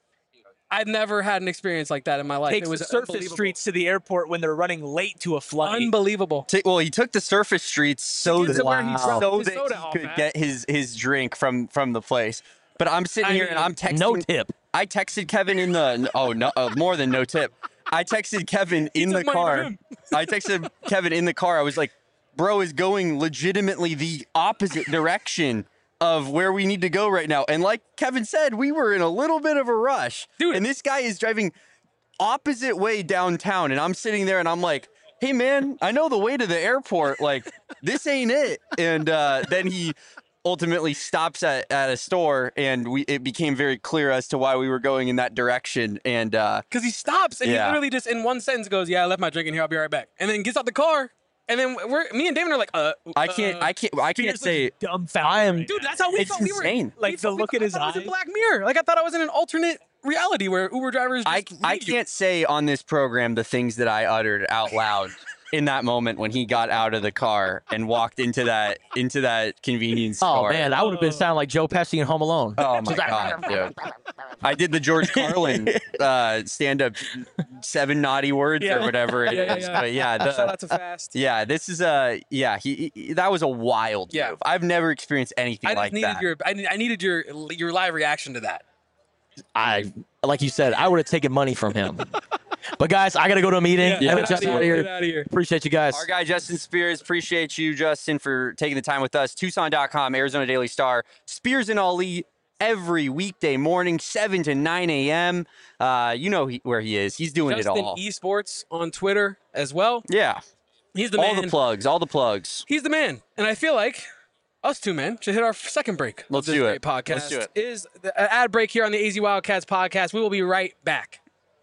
I've never had an experience like that in my life. takes It was the surface unbelievable. streets to the airport when they're running late to a flight. Unbelievable. Well, he took the surface streets so get to where he that, dropped so his that soda he off could at. get his drink from the place. But I'm sitting I here and mean, I'm texting. No tip. I texted Kevin in the more than no tip. I texted Kevin in the took money from car. him. I texted Kevin in the car. I was like, "Bro is going legitimately the opposite direction of where we need to go right now." And like Kevin said, we were in a little bit of a rush. Dude. And this guy is driving opposite way downtown, and I'm sitting there and I'm like, "Hey man, I know the way to the airport. Like, this ain't it." And then he ultimately stops at a store, and it became very clear as to why we were going in that direction. And Because he stops and Yeah. he literally just in one sentence goes, "Yeah, I left my drink in here. I'll be right back." And then gets out the car And then me and Damon are like, I can't say. Dumbfounded. dude, that's how we It's felt. We were insane. Like, we the felt- we look in thought- his I thought it was eyes. a Black Mirror. Like I thought I was in an alternate reality where Uber drivers. I Just I leave you. can't say on this program the things that I uttered out loud in that moment when he got out of the car and walked into that convenience Oh store. man, I would have been sounding like Joe Pesci in Home Alone. Oh my god, dude! I did the George Carlin stand-up 7 naughty words or whatever it is. But yeah, Shout out to Fast. yeah, this is he that was a wild Yeah. move. I've never experienced anything I just like needed that. I needed your live reaction to that. Like you said, I would have taken money from him. But guys, I gotta go to a meeting. Yeah, Have a get Justin outta here, here. get outta here. Appreciate you guys. Our guy Justin Spears, appreciate you, Justin, for taking the time with us. Tucson.com, Arizona Daily Star, Spears and Ali every weekday morning, 7 to 9 a.m. You know where he is. He's doing Justin it all. Esports on Twitter as well. Yeah, He's the all man. the plugs, all the plugs. He's the man, and I feel like us two men should hit our second break. of Let's this do great it. Podcast Let's do it. Is the ad break here on the AZ Wildcats podcast. We will be right back.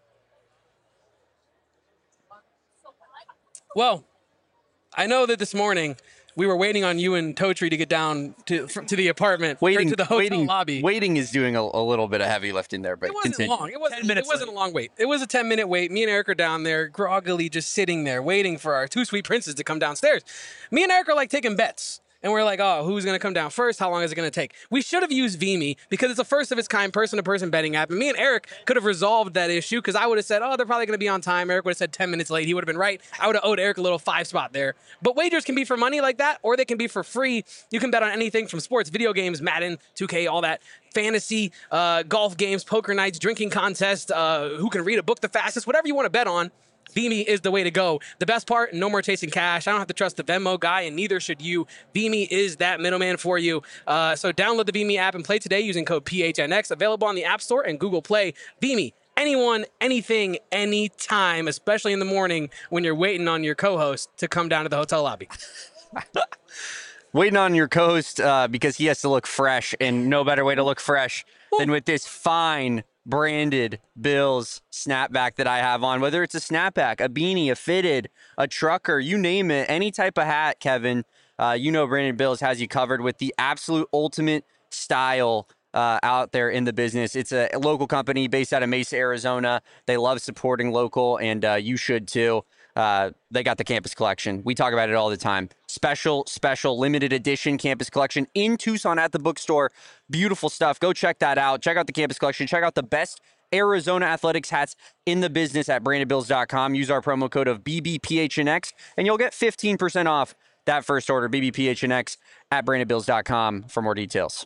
Well, I know that this morning we were waiting on you and Totri to get down to the apartment, or to the hotel lobby. Waiting is doing a little bit of heavy lifting there, but It wasn't continue. long. It wasn't. 10 minutes It wasn't late. a long wait. It was a 10-minute wait. Me and Eric are down there, groggily, just sitting there, waiting for our two sweet princes to come downstairs. Me and Eric are like taking bets. And we're like, oh, who's going to come down first? How long is it going to take? We should have used Vimy because it's a first of its kind person-to-person betting app. And me and Eric could have resolved that issue because I would have said, oh, they're probably going to be on time. Eric would have said 10 minutes late. He would have been right. I would have owed Eric a little 5 spot there. But wagers can be for money like that, or they can be for free. You can bet on anything from sports, video games, Madden, 2K, all that. Fantasy, golf games, poker nights, drinking contests, who can read a book the fastest, whatever you want to bet on. Vimy is the way to go. The best part, no more chasing cash. I don't have to trust the Venmo guy, and neither should you. Vimy is that middleman for you. So download the Vimy app and play today using code PHNX. Available on the App Store and Google Play. Vimy, anyone, anything, anytime, especially in the morning when you're waiting on your co-host to come down to the hotel lobby. Waiting on your co-host because he has to look fresh, and no better way to look fresh than with this fine branded Bills snapback that I have on. Whether it's a snapback, a beanie, a fitted, a trucker, you name it, any type of hat, Kevin, you know Branded Bills has you covered with the absolute ultimate style out there in the business. It's a local company based out of Mesa, Arizona. They love supporting local, and you should too. They got the campus collection. We talk about it all the time. Special limited edition campus collection in Tucson at the bookstore. Beautiful stuff. Go check that out. Check out the campus collection. Check out the best Arizona athletics hats in the business at brandedbills.com. Use our promo code of BBPHNX and you'll get 15% off that first order. BBPHNX at brandedbills.com for more details.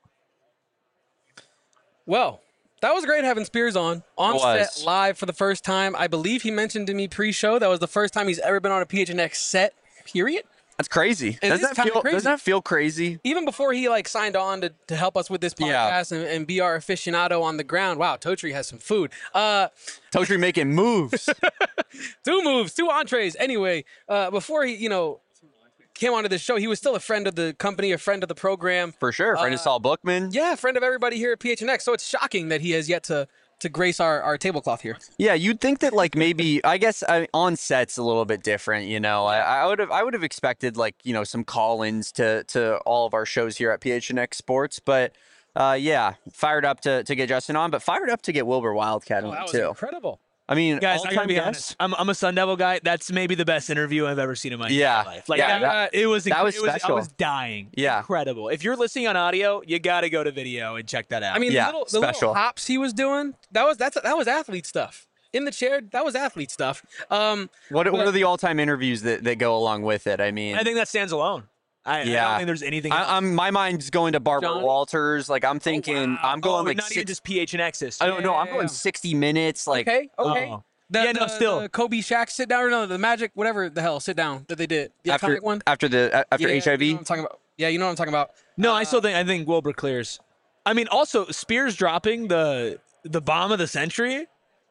Well, that was great having Spears on It was. set live for the first time. I believe he mentioned to me pre-show that was the first time he's ever been on a PHNX set, period. That's crazy. It Doesn't is kinda crazy. that feel crazy? Even before he signed on to help us with this Yeah. podcast and be our aficionado on the ground. Wow, Totri has some food. Totri making moves. 2 moves, 2 entrees. Anyway, before he, came onto the show, he was still a friend of the company, a friend of the program. For sure. Friend of Saul Bookman. Yeah, friend of everybody here at PHNX. So it's shocking that he has yet to grace our tablecloth here. Yeah, you'd think that maybe I guess on set's a little bit different, I would have expected some call-ins to all of our shows here at PHNX Sports, but yeah, fired up to get Justin on, but fired up to get Wilbur Wildcat Oh, on that was too. incredible. I mean, Guys, I gotta all-time be guest? honest. I'm a Sun Devil guy. That's maybe the best interview I've ever seen in my Yeah. entire life. Yeah, it was that was I special. was dying. Yeah. Incredible. If you're listening on audio, you gotta go to video and check that out. I mean, Yeah, the special. little hops he was doing, that was athlete stuff. In the chair, that was athlete stuff. What are the all-time interviews that go along with it? I mean, I think that stands alone. I Yeah. don't think there's anything. else. I'm my mind's going to Barbara Johnny? Walters. I'm thinking I'm going not even just PHNX I history. don't know. I'm Yeah. going 60 minutes. Okay. Oh. The still. Kobe Shaq sit down, or no, the Magic, whatever the hell, sit down that they did. The after iconic one. after Yeah, HIV. You know what I'm talking about. Yeah, you know what I'm talking about. No, I think Wilbur clears. I mean, also Spears dropping the bomb of the century.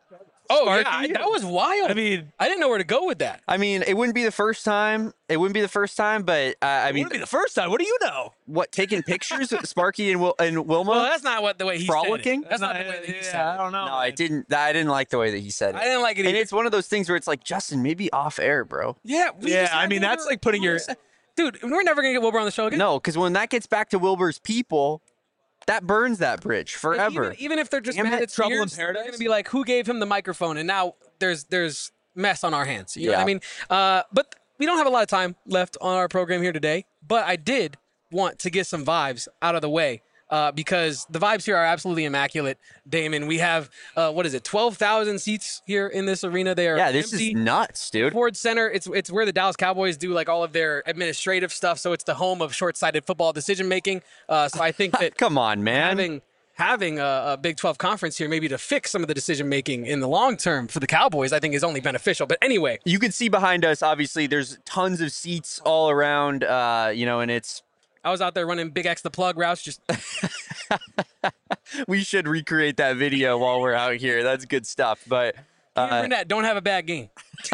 Oh Sparky? yeah, that was wild. I mean, I didn't know where to go with that. I mean, it wouldn't be the first time. It wouldn't be the first time, but I it mean, wouldn't be the first time. What do you know? what taking pictures with Sparky and Wilma? Well, that's not what the way he Frolicking? said it. That's not the way that he said I it. don't know. No, I didn't. I didn't like the way that he said it. I didn't like it And either. it's one of those things where it's like, Justin, maybe off air, bro. Yeah, we Yeah, just I had mean, that's Wilbur- like putting your- Dude, we're never gonna get Wilbur on the show again. No, because when that gets back to Wilbur's people, that burns that bridge Like, forever. even if they're just Damn mad it. at Trouble in Spears, they're Paradise? gonna be like, who gave him the microphone? And now there's mess on our hands. You know what I Yeah. mean? But we don't have a lot of time left on our program here today. But I did want to get some vibes out of the way. Because the vibes here are absolutely immaculate, Damon. We have 12,000 seats here in this arena. They are Yeah, this empty. is nuts, dude. Ford Center. It's where the Dallas Cowboys do like all of their administrative stuff. So it's the home of short-sighted football decision making. So I think that Come on, man. having a Big 12 conference here, maybe to fix some of the decision making in the long term for the Cowboys, I think is only beneficial. But anyway, You can see behind us, obviously, there's tons of seats all around, and it's. I was out there running Big X the plug routes. Just We should recreate that video while we're out here. That's good stuff. But Burnett, don't have a bad game.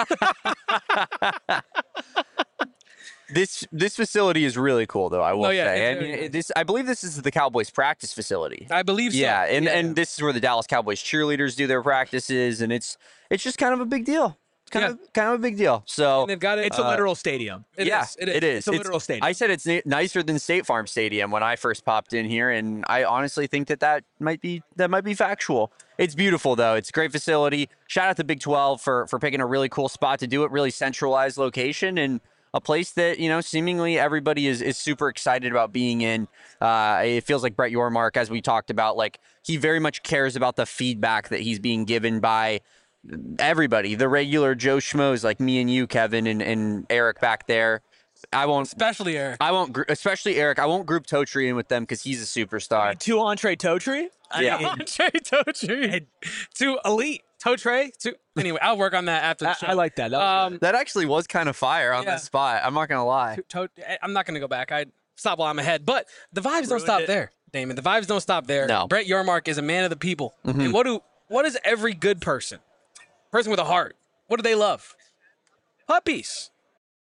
this facility is really cool, though. I will Oh, yeah, say, it's very and I believe this is the Cowboys practice facility. I believe so. Yeah, and this is where the Dallas Cowboys cheerleaders do their practices, and it's just kind of a big deal. It's kind of a big deal. So And they've got it. It's a literal stadium. It yeah, is. it is. It's a literal stadium. I said it's nicer than State Farm Stadium when I first popped in here, and I honestly think that might be factual. It's beautiful though. It's a great facility. Shout out to Big 12 for picking a really cool spot to do it. Really centralized location and a place that seemingly everybody is super excited about being in. It feels like Brett Yormark, as we talked about, like he very much cares about the feedback that he's being given by everybody, the regular Joe Schmoes like me and you, Kevin, and Eric back there. Especially Eric. Especially Eric. I won't group Totri in with them because he's a superstar. Two entree toe tree. Yeah. Andre Totri. To elite. Toe tray. Anyway, I'll work on that after the show. I like that. That was good. That actually was kind of fire on Yeah. the spot. I'm not gonna lie. I'm not going to go back. I stop while I'm ahead. But the vibes don't Ruined stop it. there, Damon. The vibes don't stop there. No. Brett Yormark is a man of the people. And what is every good person with a heart, what do they love? Puppies.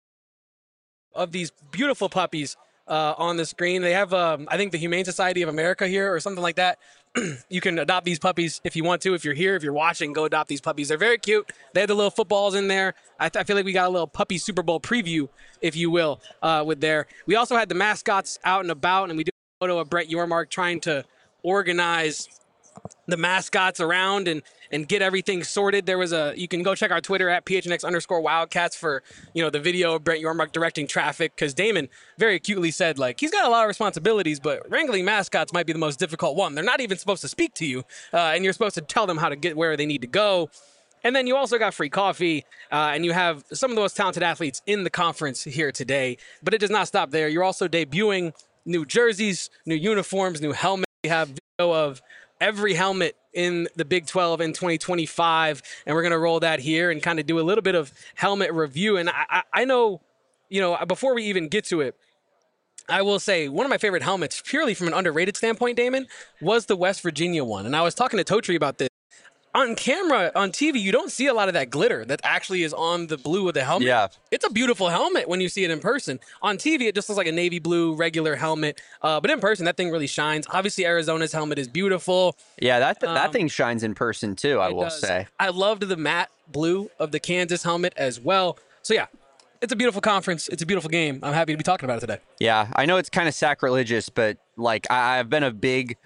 Of these beautiful puppies on the screen. They have, I think, the Humane Society of America here or something like that. You can adopt these puppies if you want to. If you're here, if you're watching, go adopt these puppies. They're very cute. They have the little footballs in there. I feel like we got a little puppy Super Bowl preview, if you will, with there. We also had the mascots out and about, and we did a photo of Brett Yormark trying to organize the mascots around and get everything sorted. There was you can go check our Twitter at PHNX_Wildcats for, the video of Brett Yormark directing traffic. Cause Damon very acutely said, like, he's got a lot of responsibilities, but wrangling mascots might be the most difficult one. They're not even supposed to speak to you. And you're supposed to tell them how to get where they need to go. And then you also got free coffee, and you have some of the most talented athletes in the conference here today. But it does not stop there. You're also debuting new jerseys, new uniforms, new helmets. We have video of every helmet in the Big 12 in 2025, and we're going to roll that here and kind of do a little bit of helmet review. And I know, before we even get to it, I will say one of my favorite helmets, purely from an underrated standpoint, Damon, was the West Virginia one. And I was talking to Totri about this. On camera, on TV, you don't see a lot of that glitter that actually is on the blue of the helmet. Yeah. It's a beautiful helmet when you see it in person. On TV, it just looks like a navy blue regular helmet. But in person, that thing really shines. Obviously, Arizona's helmet is beautiful. Yeah, that thing shines in person too, I It will does. say. I loved the matte blue of the Kansas helmet as well. So, yeah, it's a beautiful conference. It's a beautiful game. I'm happy to be talking about it today. Yeah, I know it's kind of sacrilegious, but like I've been a big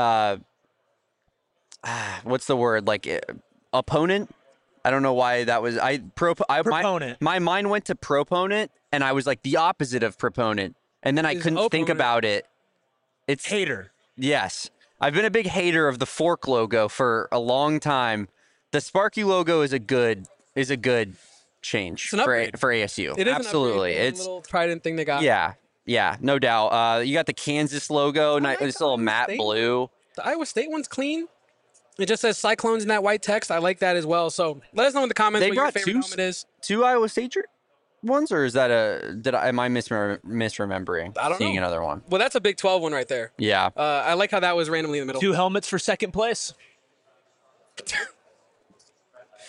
what's the word? Like opponent? I don't know why that was. Proponent. My mind went to proponent, and I was like the opposite of proponent, and then I Is couldn't think opponent. about it. It's Hater. yes. I've been a big hater of the fork logo for a long time. The Sparky logo is a good change an upgrade. for ASU. It is Absolutely. An upgrade, It's a little trident thing they got. yeah, no doubt. You got the Kansas logo, like this the little Iowa matte State. blue. The Iowa State one's clean. It just says Cyclones in that white text. I like that as well. So let us know in the comments They what your brought favorite two helmet is. Two Iowa State ones, or is that am I misremembering? I don't seeing know. another one. Well, that's a Big 12 one right there. Yeah. I like how that was randomly in the middle. 2 helmets for second place.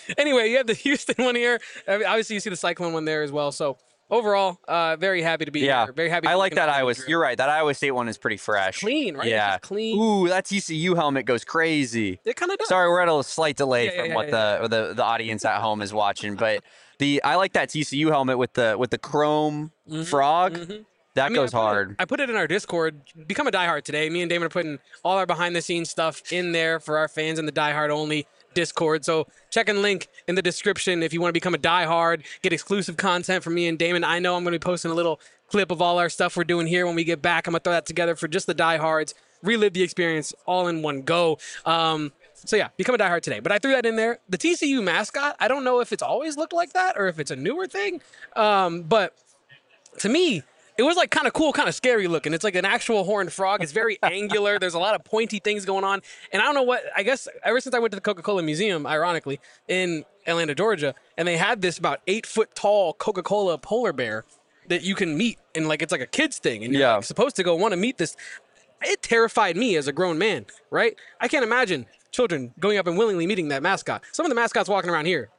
Anyway, you have the Houston one here. I mean, obviously, you see the Cyclone one there as well. So overall, very happy to be here. Very happy. I to like be that connected Iowa. with Drew. You're right. That Iowa State one is pretty fresh. Clean, right? It's Yeah. just clean. Ooh, that TCU helmet goes crazy. It kind of does. Sorry, we're at a slight delay Yeah, from yeah, what yeah, the audience at home is watching, but I like that TCU helmet with the chrome frog. That I mean, goes hard. I put it in our Discord. Become a diehard today. Me and Damon are putting all our behind the scenes stuff in there for our fans in the diehard only Discord. So check and link in the description if you want to become a diehard, get exclusive content from me and Damon. I know I'm going to be posting a little clip of all our stuff we're doing here when we get back. I'm going to throw that together for just the diehards, relive the experience all in one go. So yeah, become a diehard today. But I threw that in there. The TCU mascot, I don't know if it's always looked like that or if it's a newer thing. But to me, it was like kind of cool, kind of scary looking. It's like an actual horned frog. It's very angular. There's a lot of pointy things going on. And I don't know what, I guess ever since I went to the Coca-Cola Museum, ironically, in Atlanta, Georgia, and they had this about 8-foot tall Coca-Cola polar bear that you can meet. And like, it's like a kid's thing. And you're like, supposed to go want to meet this. It terrified me as a grown man, right? I can't imagine children going up and willingly meeting that mascot. Some of the mascots walking around here,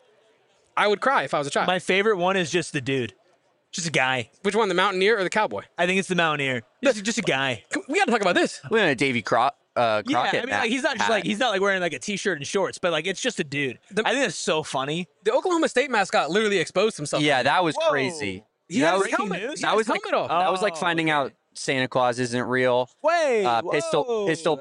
I would cry if I was a child. My favorite one is just the dude. Just a guy. Which one, the Mountaineer or the Cowboy? I think it's the Mountaineer. Just a guy. We got to talk about this. We're in a Davy Crockett. Yeah, I mean, hat. like, he's not just like wearing like a t-shirt and shorts, but like it's just a dude. I think that's so funny. The Oklahoma State mascot literally exposed himself. Yeah, that was Whoa. crazy. He had his breaking helmet. news? He had his helmet off. That was like Oh, finding out Santa Claus isn't real. Wait, Pistol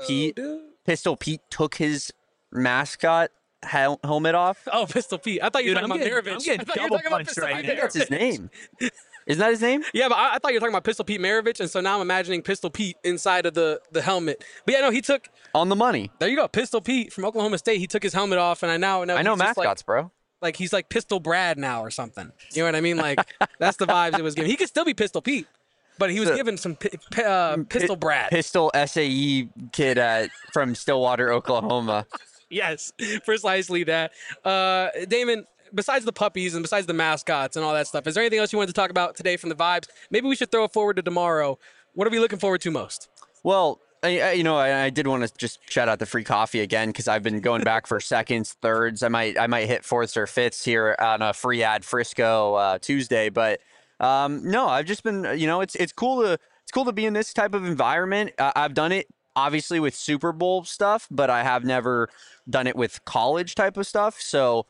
Pete took his mascot helmet off. Oh, Pistol Pete. I thought you were Dude, talking I'm about getting- Maravich. I'm getting I thought you were talking about double-punched Pistol right Pete now. That's his Maravich. name. Isn't that his name? Yeah, but I thought you were talking about Pistol Pete Maravich, and so now I'm imagining Pistol Pete inside of the helmet. But yeah, no, he took. On the money. There you go, Pistol Pete from Oklahoma State. He took his helmet off, and I know I know he's just mascots, bro. like he's like Pistol Brad now or something. You know what I mean? Like that's the vibes it was giving. He could still be Pistol Pete, but he was given some Pistol Brad. Pistol SAE kid from Stillwater, Oklahoma. Yes, precisely that. Damon, besides the puppies and besides the mascots and all that stuff, is there anything else you wanted to talk about today from the vibes? Maybe we should throw it forward to tomorrow. What are we looking forward to most? Well, I did want to just shout out the free coffee again because I've been going back for seconds, thirds. I might hit fourths or fifths here on a free ad Frisco Tuesday, but no, I've just been it's cool to be in this type of environment. I've done it obviously with Super Bowl stuff, but I have never done it with college type of stuff. So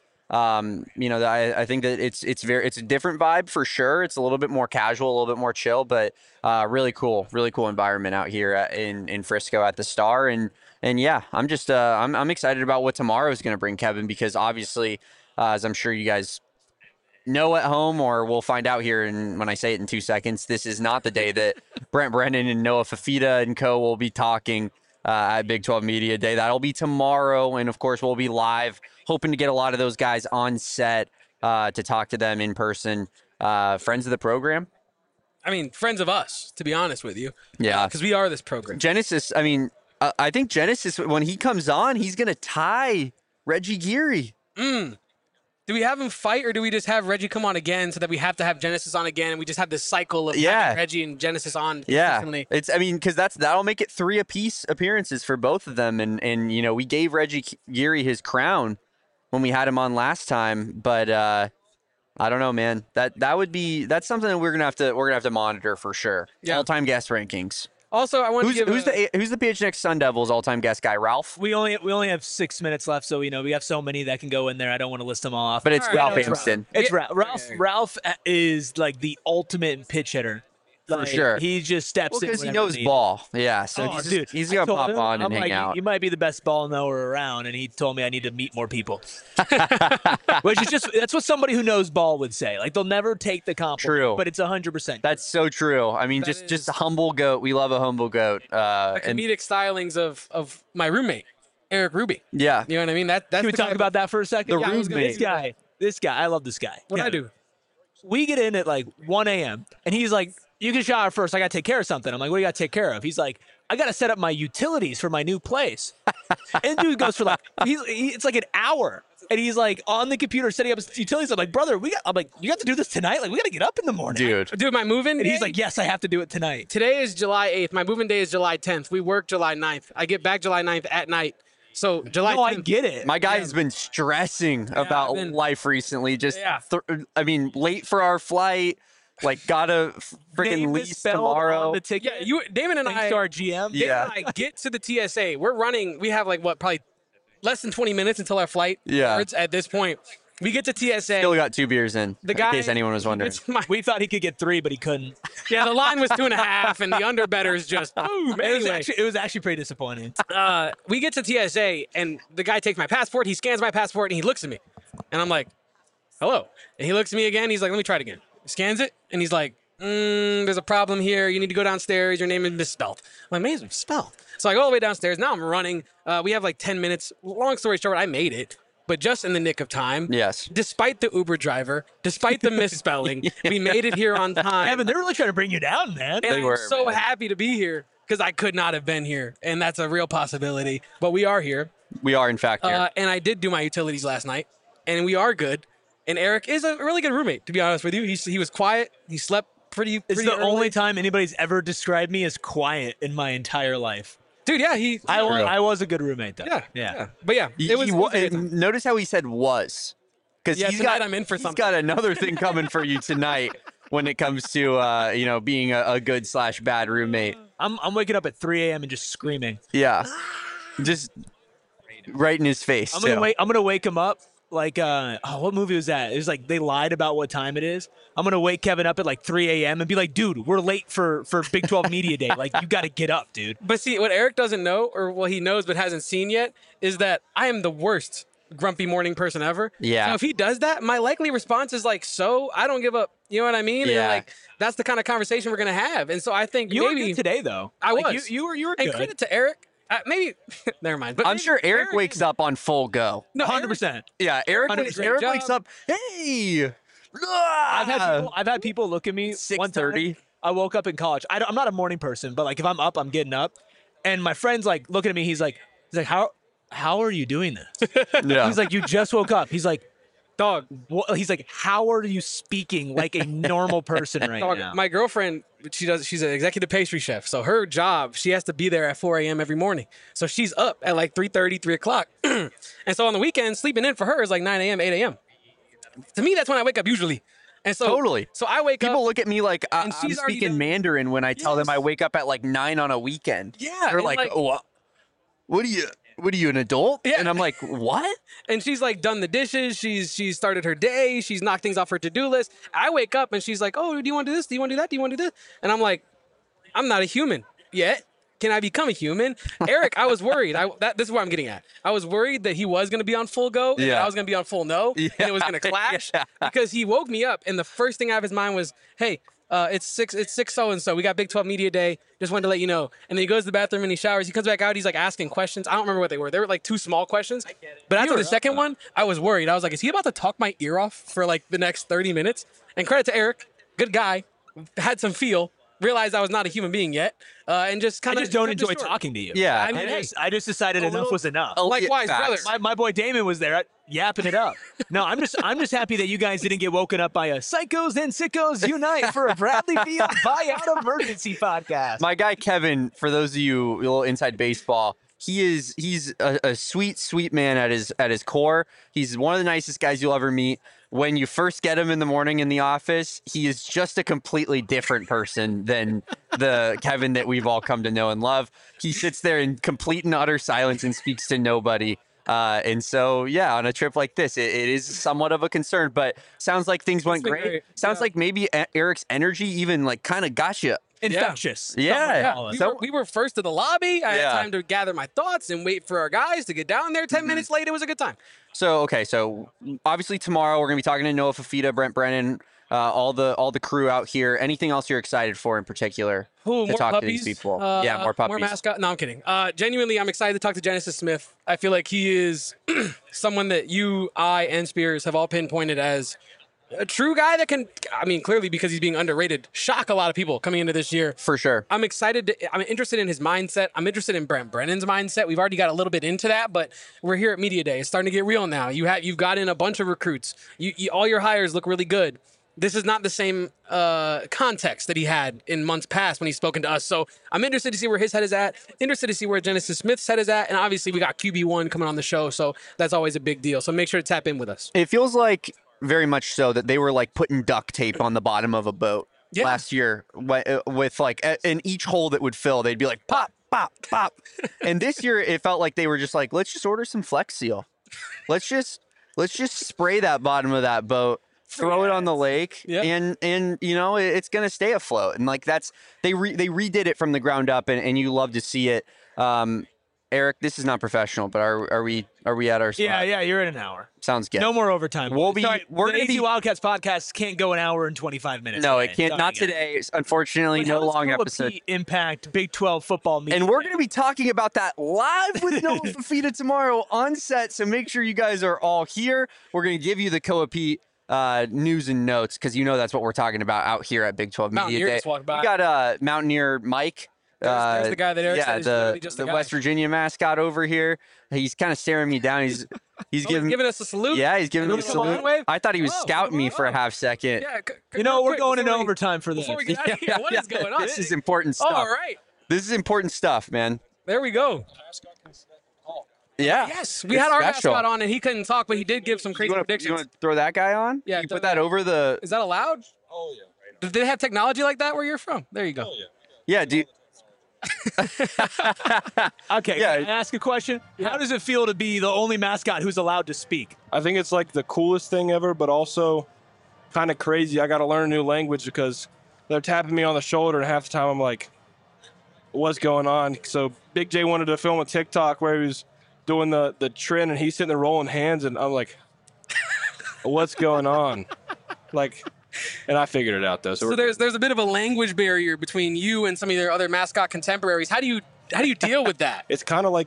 I think that it's a different vibe for sure. It's a little bit more casual, a little bit more chill, but really cool environment out here in Frisco at the Star. And yeah, I'm just I'm excited about what tomorrow is going to bring, Kevin, because obviously, as I'm sure you guys know at home, or we'll find out here when I say it in 2 seconds, this is not the day that Brent Brennan and Noah Fafita and co will be talking at Big 12 Media Day. That'll be tomorrow, and of course we'll be live, hoping to get a lot of those guys on set to talk to them in person. Friends of the program. I mean, friends of us, to be honest with you. Yeah. Because we are this program. Genesis, I mean, I think Genesis, when he comes on, he's going to tie Reggie Geary. Do we have him fight, or do we just have Reggie come on again so that we have to have Genesis on again, and we just have this cycle of having Reggie and Genesis on consistently? Because that'll make it 3 apiece appearances for both of them, and we gave Reggie Geary his crown when we had him on last time, but I don't know, man. That's something that we're gonna have to monitor for sure. Yeah. All-time guest rankings. Also, I want to give who's the PHNX Sun Devils all-time guest guy? Ralph. We only have 6 minutes left, so we have so many that can go in there. I don't want to list them all off. But it's All right, Ralph no, it's Amston. It's Yeah. Ralph. Ralph is like the ultimate pitch hitter. For sure. He just steps in Because he whenever knows needed. ball. Yeah, so he's I gonna told pop him, on and I'm hang like, out. You might be the best ball knower around, and he told me I need to meet more people. Which is that's what somebody who knows ball would say. Like they'll never take the compliment, True. but it's 100%. That's so true. I mean, That just is- a humble goat. We love a humble goat. the And comedic stylings of my roommate, Eric Ruby. yeah, You know what I mean? That's Can we the talk type about that for a second? The Yeah, I was gonna- roommate. This guy, I love this guy. What Yeah. I do. We get in at like 1 a.m. and he's like, "You can shower first. I got to take care of something." I'm like, "What do you got to take care of?" He's like, "I got to set up my utilities for my new place." And dude goes for like, it's like an hour. And he's like on the computer setting up his utilities. I'm like, "Brother, I'm like, you got to do this tonight? Like, we got to get up in the morning." dude. Dude, my move-in And he's day- like, "Yes, I have to do it tonight." Today is July 8th. My moving day is July 10th. We work July 9th. I get back July 9th at night. So July No, I 10th, get it. My guy has been stressing about I've been- life recently. Just, Yeah. I mean, late for our flight. Like, gotta freaking Name leave misspelled tomorrow. on the ticket. Yeah, Damon and Thanks I, to our GM. Damon Yeah. and I get to the TSA. We're running. We have like what, probably less than 20 minutes until our flight. Yeah. starts at this point. We get to TSA. Still got 2 beers in guy, case anyone was wondering. it's my- We thought he could get 3, but he couldn't. yeah, the line was 2.5, and the underbetters just boom. Anyway, It was actually pretty disappointing. we get to TSA, and the guy takes my passport. He scans my passport, and he looks at me, and I'm like, "Hello." And he looks at me again. He's like, "Let me try it again." He scans it, and he's like, "There's a problem here. You need to go downstairs. Your name is misspelled." I'm like, "Man, it's misspelled." So I go all the way downstairs. Now I'm running. We have like 10 minutes. Long story short, I made it, but just in the nick of time. Yes. Despite the Uber driver, despite the misspelling, we made it here on time. Evan, they're really trying to bring you down, man. And They I'm were, so man. happy to be here because I could not have been here, and that's a real possibility. But we are here, We are, in fact, here. and I did do my utilities last night, and we are good. And Eric is a really good roommate, to be honest with you. He was quiet. He slept pretty. It's pretty the early. only time anybody's ever described me as quiet in my entire life. dude. Yeah, I was a good roommate, though. yeah. But yeah, He- it was. he It wa- was a good time. notice how he said was. Because Yeah, he's tonight got, I'm in for he's something. got another thing coming for you tonight when it comes to, being a good / bad roommate. I'm waking up at 3 a.m. and just screaming. Yeah. Just right in his face. I'm too. gonna wake him up like what movie was that? It was like they lied about what time it is. I'm gonna wake Kevin up at like 3 a.m. and be like, dude, we're late for Big 12 Media Day. Like, you got to get up, dude. But see, what Eric doesn't know, or what he knows but hasn't seen yet, is that I am the worst grumpy morning person ever. Yeah. So if he does that, my likely response is like, "So I don't give up." You know what I mean? And Yeah. like that's the kind of conversation we're gonna have. And so I think You were maybe good today, though. I Like, was. You were and good. credit to Eric. Maybe never mind. But I'm maybe sure Eric wakes up on full go. No, 100%. Yeah, Eric, 100% Eric job. wakes up, hey! I've had people look at me. One time, 6:30. I woke up in college. I'm not a morning person, but like if I'm up, I'm getting up. And my friend's like looking at me. He's like, how are you doing this? Yeah. He's like, you just woke up. He's like, dog. he's like, how are you speaking like a normal person right Dog, now? my girlfriend, she's an executive pastry chef. So her job, she has to be there at 4 a.m. every morning. So she's up at like 3:30, 3 o'clock. And so on the weekend, sleeping in for her is like 9 a.m., 8 a.m. To me, that's when I wake up usually. And so Totally. So I wake People up. look at me like I'm she's already speaking done- Mandarin when I tell them Yes. I wake up at like 9 on a weekend. Yeah, They're and like, like- oh, what are you, an adult? Yeah. And I'm like, what? And she's like done the dishes. She's started her day. She's knocked things off her to-do list. I wake up and she's like, "Oh, do you want to do this? Do you want to do that? Do you want to do this?" And I'm like, "I'm not a human yet. Can I become a human?" Eric, I was worried. This is where I'm getting at. I was worried that he was going to be on full go and that Yeah. I was going to be on full no, and it was going to clash because he woke me up and the first thing out of his mind was, "Hey, it's six so and so. We got Big 12 Media Day. Just wanted to let you know." And then he goes to the bathroom and he showers. He comes back out. He's like asking questions. I don't remember what they were. They were like 2 small questions. But after the second one, I was worried. I was like, "Is he about to talk my ear off for like the next 30 minutes?" And credit to Eric, good guy, had some feel. Realized I was not a human being yet, and just I kind of just don't enjoy talking to you. Yeah. I mean, I just decided enough little- was enough. Likewise, Facts. brother. My boy Damon was there yapping it up. No, I'm just happy that you guys didn't get woken up by a Psychos and Sickos Unite for a Bradley Field buyout emergency podcast. My guy Kevin, for those of you a little inside baseball, he's a sweet man at his core. He's one of the nicest guys you'll ever meet. When you first get him in the morning in the office, he is just a completely different person than the Kevin that we've all come to know and love. He sits there in complete and utter silence and speaks to nobody. And so, yeah, on a trip like this, it is somewhat of a concern, but sounds like things went been great. great. Sounds Yeah. like maybe Eric's energy even like kind of got you. Infectious. Yeah. Call it. We were first to the lobby. I Yeah. had time to gather my thoughts and wait for our guys to get down there. 10 minutes late, it was a good time. So, okay, so obviously tomorrow we're going to be talking to Noah Fafita, Brent Brennan, all the crew out here. Anything else you're excited for in particular Ooh, to more talk puppies. to these people? Yeah, more puppies. More mascot. No, I'm kidding. Genuinely, I'm excited to talk to Genesis Smith. I feel like he is someone that you, I, and Spears have all pinpointed as a true guy that can, I mean, clearly because he's being underrated, shock a lot of people coming into this year. For sure. I'm excited. I'm interested in his mindset. I'm interested in Brent Brennan's mindset. We've already got a little bit into that, but we're here at Media Day. It's starting to get real now. You've got in a bunch of recruits. All your hires look really good. this is not the same context that he had in months past when he's spoken to us. So I'm interested to see where his head is at, interested to see where Genesis Smith's head is at, and obviously we got QB1 coming on the show, so that's always a big deal. So make sure to tap in with us. It feels like very much so that they were like putting duct tape on the bottom of a boat last year with like in each hole that would fill, they'd be like pop, pop, pop. And this year it felt like they were just like, let's just order some Flex Seal. Let's just spray that bottom of that boat, throw it on the lake, and you know it's gonna stay afloat. And like they redid it from the ground up, and you love to see it. Eric, this is not professional, but are we at our spot? Yeah, you're in an hour. Sounds good. No more overtime. We're the gonna AZ Wildcats podcast can't go an hour and 25 minutes. No, today. it can't. Not today. Unfortunately, no long episode. Impact Big 12 football meeting. And we're going to be talking about that live with Noah Fafita tomorrow on set. So make sure you guys are all here. We're going to give you the Coa-Pete news and notes because you know that's what we're talking about out here at Big 12 Media Day. We got Mountaineer Mike. There's the guy that Eric said is literally just the guy. West Virginia mascot over here. He's kind of staring me down. He's giving us a salute. Yeah, he's giving me a salute. I thought he was scouting me for a half second. Yeah, you know we're going into overtime for this. Before we get out of here, what is going on? This is important stuff. All right. This is important stuff, man. There we go. Yeah. Yes, we had our mascot on, and he couldn't talk, but he did give some crazy predictions. You want to throw that guy on? Yeah. You put that over the. Is that allowed? Oh yeah. Did they have technology like that where you're from? There you go. Oh yeah. Yeah, dude. Okay, Yeah. can I ask a question? How does it feel to be the only mascot who's allowed to speak? I think it's like the coolest thing ever, but also kind of crazy. I got to learn a new language because they're tapping me on the shoulder, and half the time I'm like, "What's going on?" So Big J wanted to film a TikTok where he was doing the trend, and he's sitting there rolling hands, and I'm like, "What's going on?" Like. And I figured it out though. So there's a bit of a language barrier between you and some of your other mascot contemporaries. How do you deal with that? It's kind of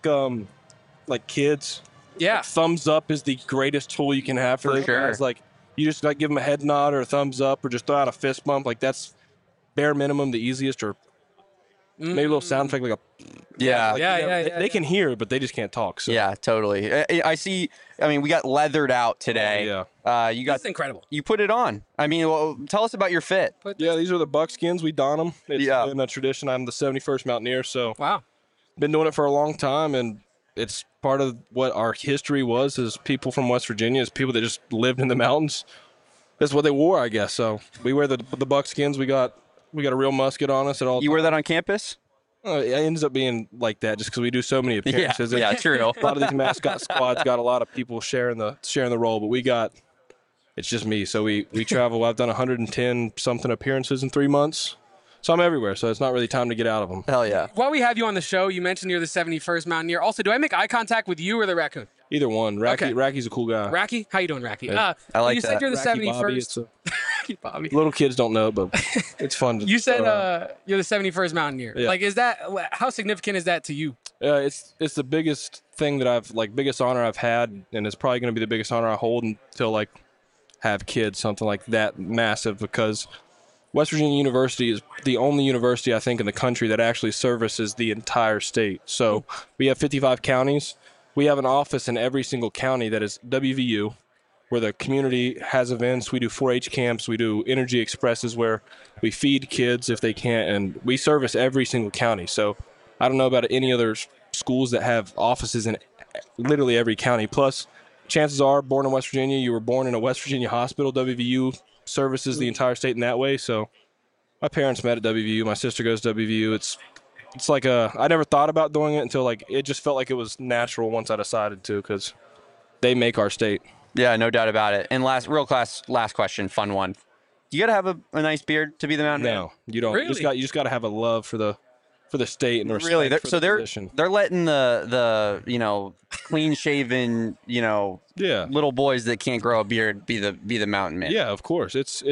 like kids. Yeah. Like, thumbs up is the greatest tool you can have for those sure. guys. Like you just like give them a head nod or a thumbs up or just throw out a fist bump. Like that's bare minimum, the easiest, or maybe a little sound effect like a. Yeah. Like, they can hear, but they just can't talk. So. Yeah, totally. I see. I mean, we got leathered out today. You got. That's incredible. You put it on. I mean, well, tell us about your fit. Yeah, these are the buckskins. We don them. It's Yeah. been a tradition. I'm the 71st Mountaineer, so Wow. been doing it for a long time, and it's part of what our history was as people from West Virginia, as people that just lived in the mountains. That's what they wore, I guess. So we wear the buckskins. We got a real musket on us at all. You wear that on campus? It ends up being like that just because we do so many appearances. Yeah, true. A lot of these mascot squads got a lot of people sharing the role, but it's just me. So we travel. I've done 110 something appearances in 3 months. So I'm everywhere. So it's not really time to get out of them. Hell yeah. While we have you on the show, you mentioned you're the 71st Mountaineer. Also, do I make eye contact with you or the raccoon? Either one. Okay. Racky's a cool guy. Racky? How you doing, Racky? I like you that. said you're the Racky 71st. Bobby, it's a- Racky Bobby. little kids don't know, but it's fun. To You said throw out. you're the 71st Mountaineer. Yeah. Like, is that how significant is that to you? It's the biggest thing that biggest honor I've had, and it's probably going to be the biggest honor I hold until have kids, something like that massive, because West Virginia University is the only university I think in the country that actually services the entire state. So we have 55 counties. We have an office in every single county that is WVU, where the community has events. We do 4-H camps. We do Energy Expresses where we feed kids if they can't, and we service every single county. So I don't know about any other schools that have offices in literally every county. Plus, chances are, born in West Virginia, you were born in a West Virginia hospital. WVU services the entire state in that way. So my parents met at WVU. My sister goes to WVU. It's like I never thought about doing it until it just felt like it was natural once I decided to, because they make our state. Yeah, no doubt about it. And last question, fun one. You got to have a nice beard to be the Mountain Man? No, you don't. Really? You just got to have a love for the state and respect Really? for the position. They're letting the clean shaven Yeah. little boys that can't grow a beard be the Mountain Man. Yeah, of course. It's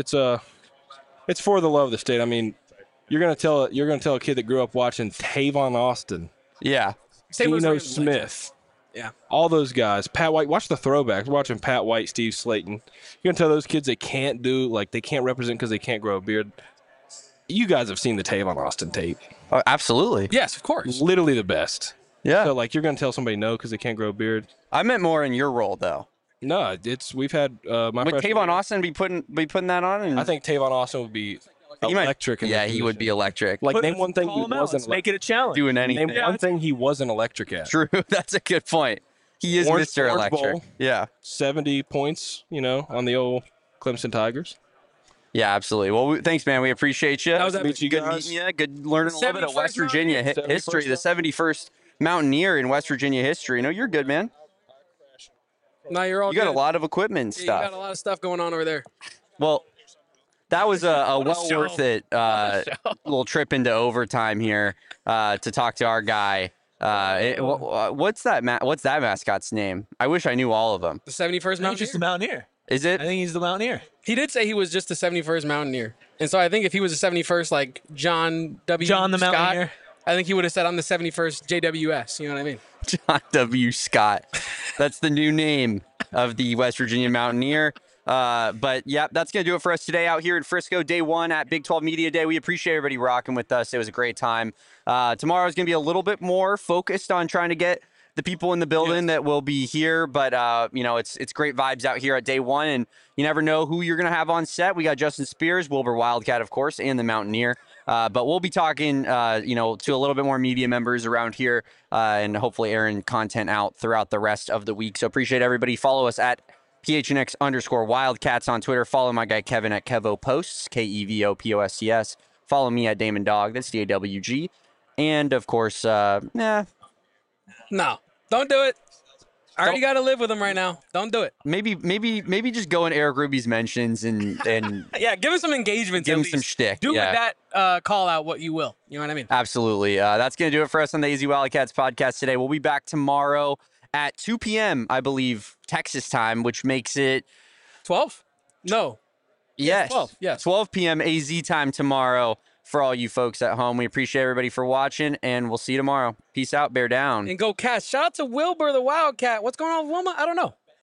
for the love of the state. I mean, you're gonna tell a kid that grew up watching Tavon Austin, Yeah. Same with Geno Rams, like, Smith, Yeah. all those guys. Pat White. Watch the throwbacks. We're watching Pat White, Steve Slayton. You're gonna tell those kids they can't they can't represent because they can't grow a beard. You guys have seen the Tavon Austin tape. Oh, absolutely. Yes, of course. Literally the best. Yeah. So you're gonna tell somebody no because they can't grow a beard. I meant more in your role though. No, we've had my Would freshman Tavon year, Austin be putting that on? And I think Tavon Austin would be he might- electric. In Yeah, this he would be position. electric. Like name one thing Call he him out. wasn't Let's make it a challenge. Doing anything. name one thing he wasn't electric at. True. That's a good point. He is Orange- Mr. Orange Electric. Bowl. Yeah. 70 points, on the old Clemson Tigers. Yeah, absolutely. Well, thanks, man. We appreciate you. That was Nice to meet you good guys. meeting you. Good learning a little bit of 71st West Virginia Mountaineer. history. The 71st Mountaineer in West Virginia history. You're good, man. No, you're all You got a good. lot of equipment and Yeah, stuff. you got a lot of stuff going on over there. Well, that was a well show. worth it little trip into overtime here to talk to our guy. What's that mascot's name? I wish I knew all of them. The 71st I think he's Mountaineer. just the Mountaineer. Is I it? think he's the Mountaineer. He did say he was just the 71st Mountaineer. And so I think if he was the 71st, like John W. John the Scott, Mountaineer. I think he would have said, I'm the 71st JWS. You know what I mean? John W. Scott. That's the new name of the West Virginia Mountaineer. But yeah, that's going to do it for us today out here in Frisco, day one at Big 12 Media Day. We appreciate everybody rocking with us. It was a great time. Tomorrow is going to be a little bit more focused on trying to get the people in the building that will be here. But, it's great vibes out here at day one. And you never know who you're going to have on set. We got Justin Spears, Wilbur Wildcat, of course, and the Mountaineer. But we'll be talking, to a little bit more media members around here and hopefully airing content out throughout the rest of the week. So appreciate everybody. Follow us at PHNX_Wildcats on Twitter. Follow my guy Kevin at Kevo Posts, KEVOPOSCS. Follow me at Damon Dog. That's DAWG. And of course, No, don't do it. I already got to live with him right now. Don't do it. maybe just go in Eric Ruby's mentions and Yeah, give him some engagement. give at him some least. shtick. Do yeah. with that call out what you will. You know what I mean? Absolutely. That's going to do it for us on the AZ Wildcats podcast today. We'll be back tomorrow at 2 p.m., I believe, Texas time, which makes it 12? No. yes, 12, yes. 12 p.m. AZ time tomorrow for all you folks at home. We appreciate everybody for watching, and we'll see you tomorrow. Peace out. Bear down. And go Cats. Shout out to Wilbur the Wildcat. What's going on with Wilma? I don't know.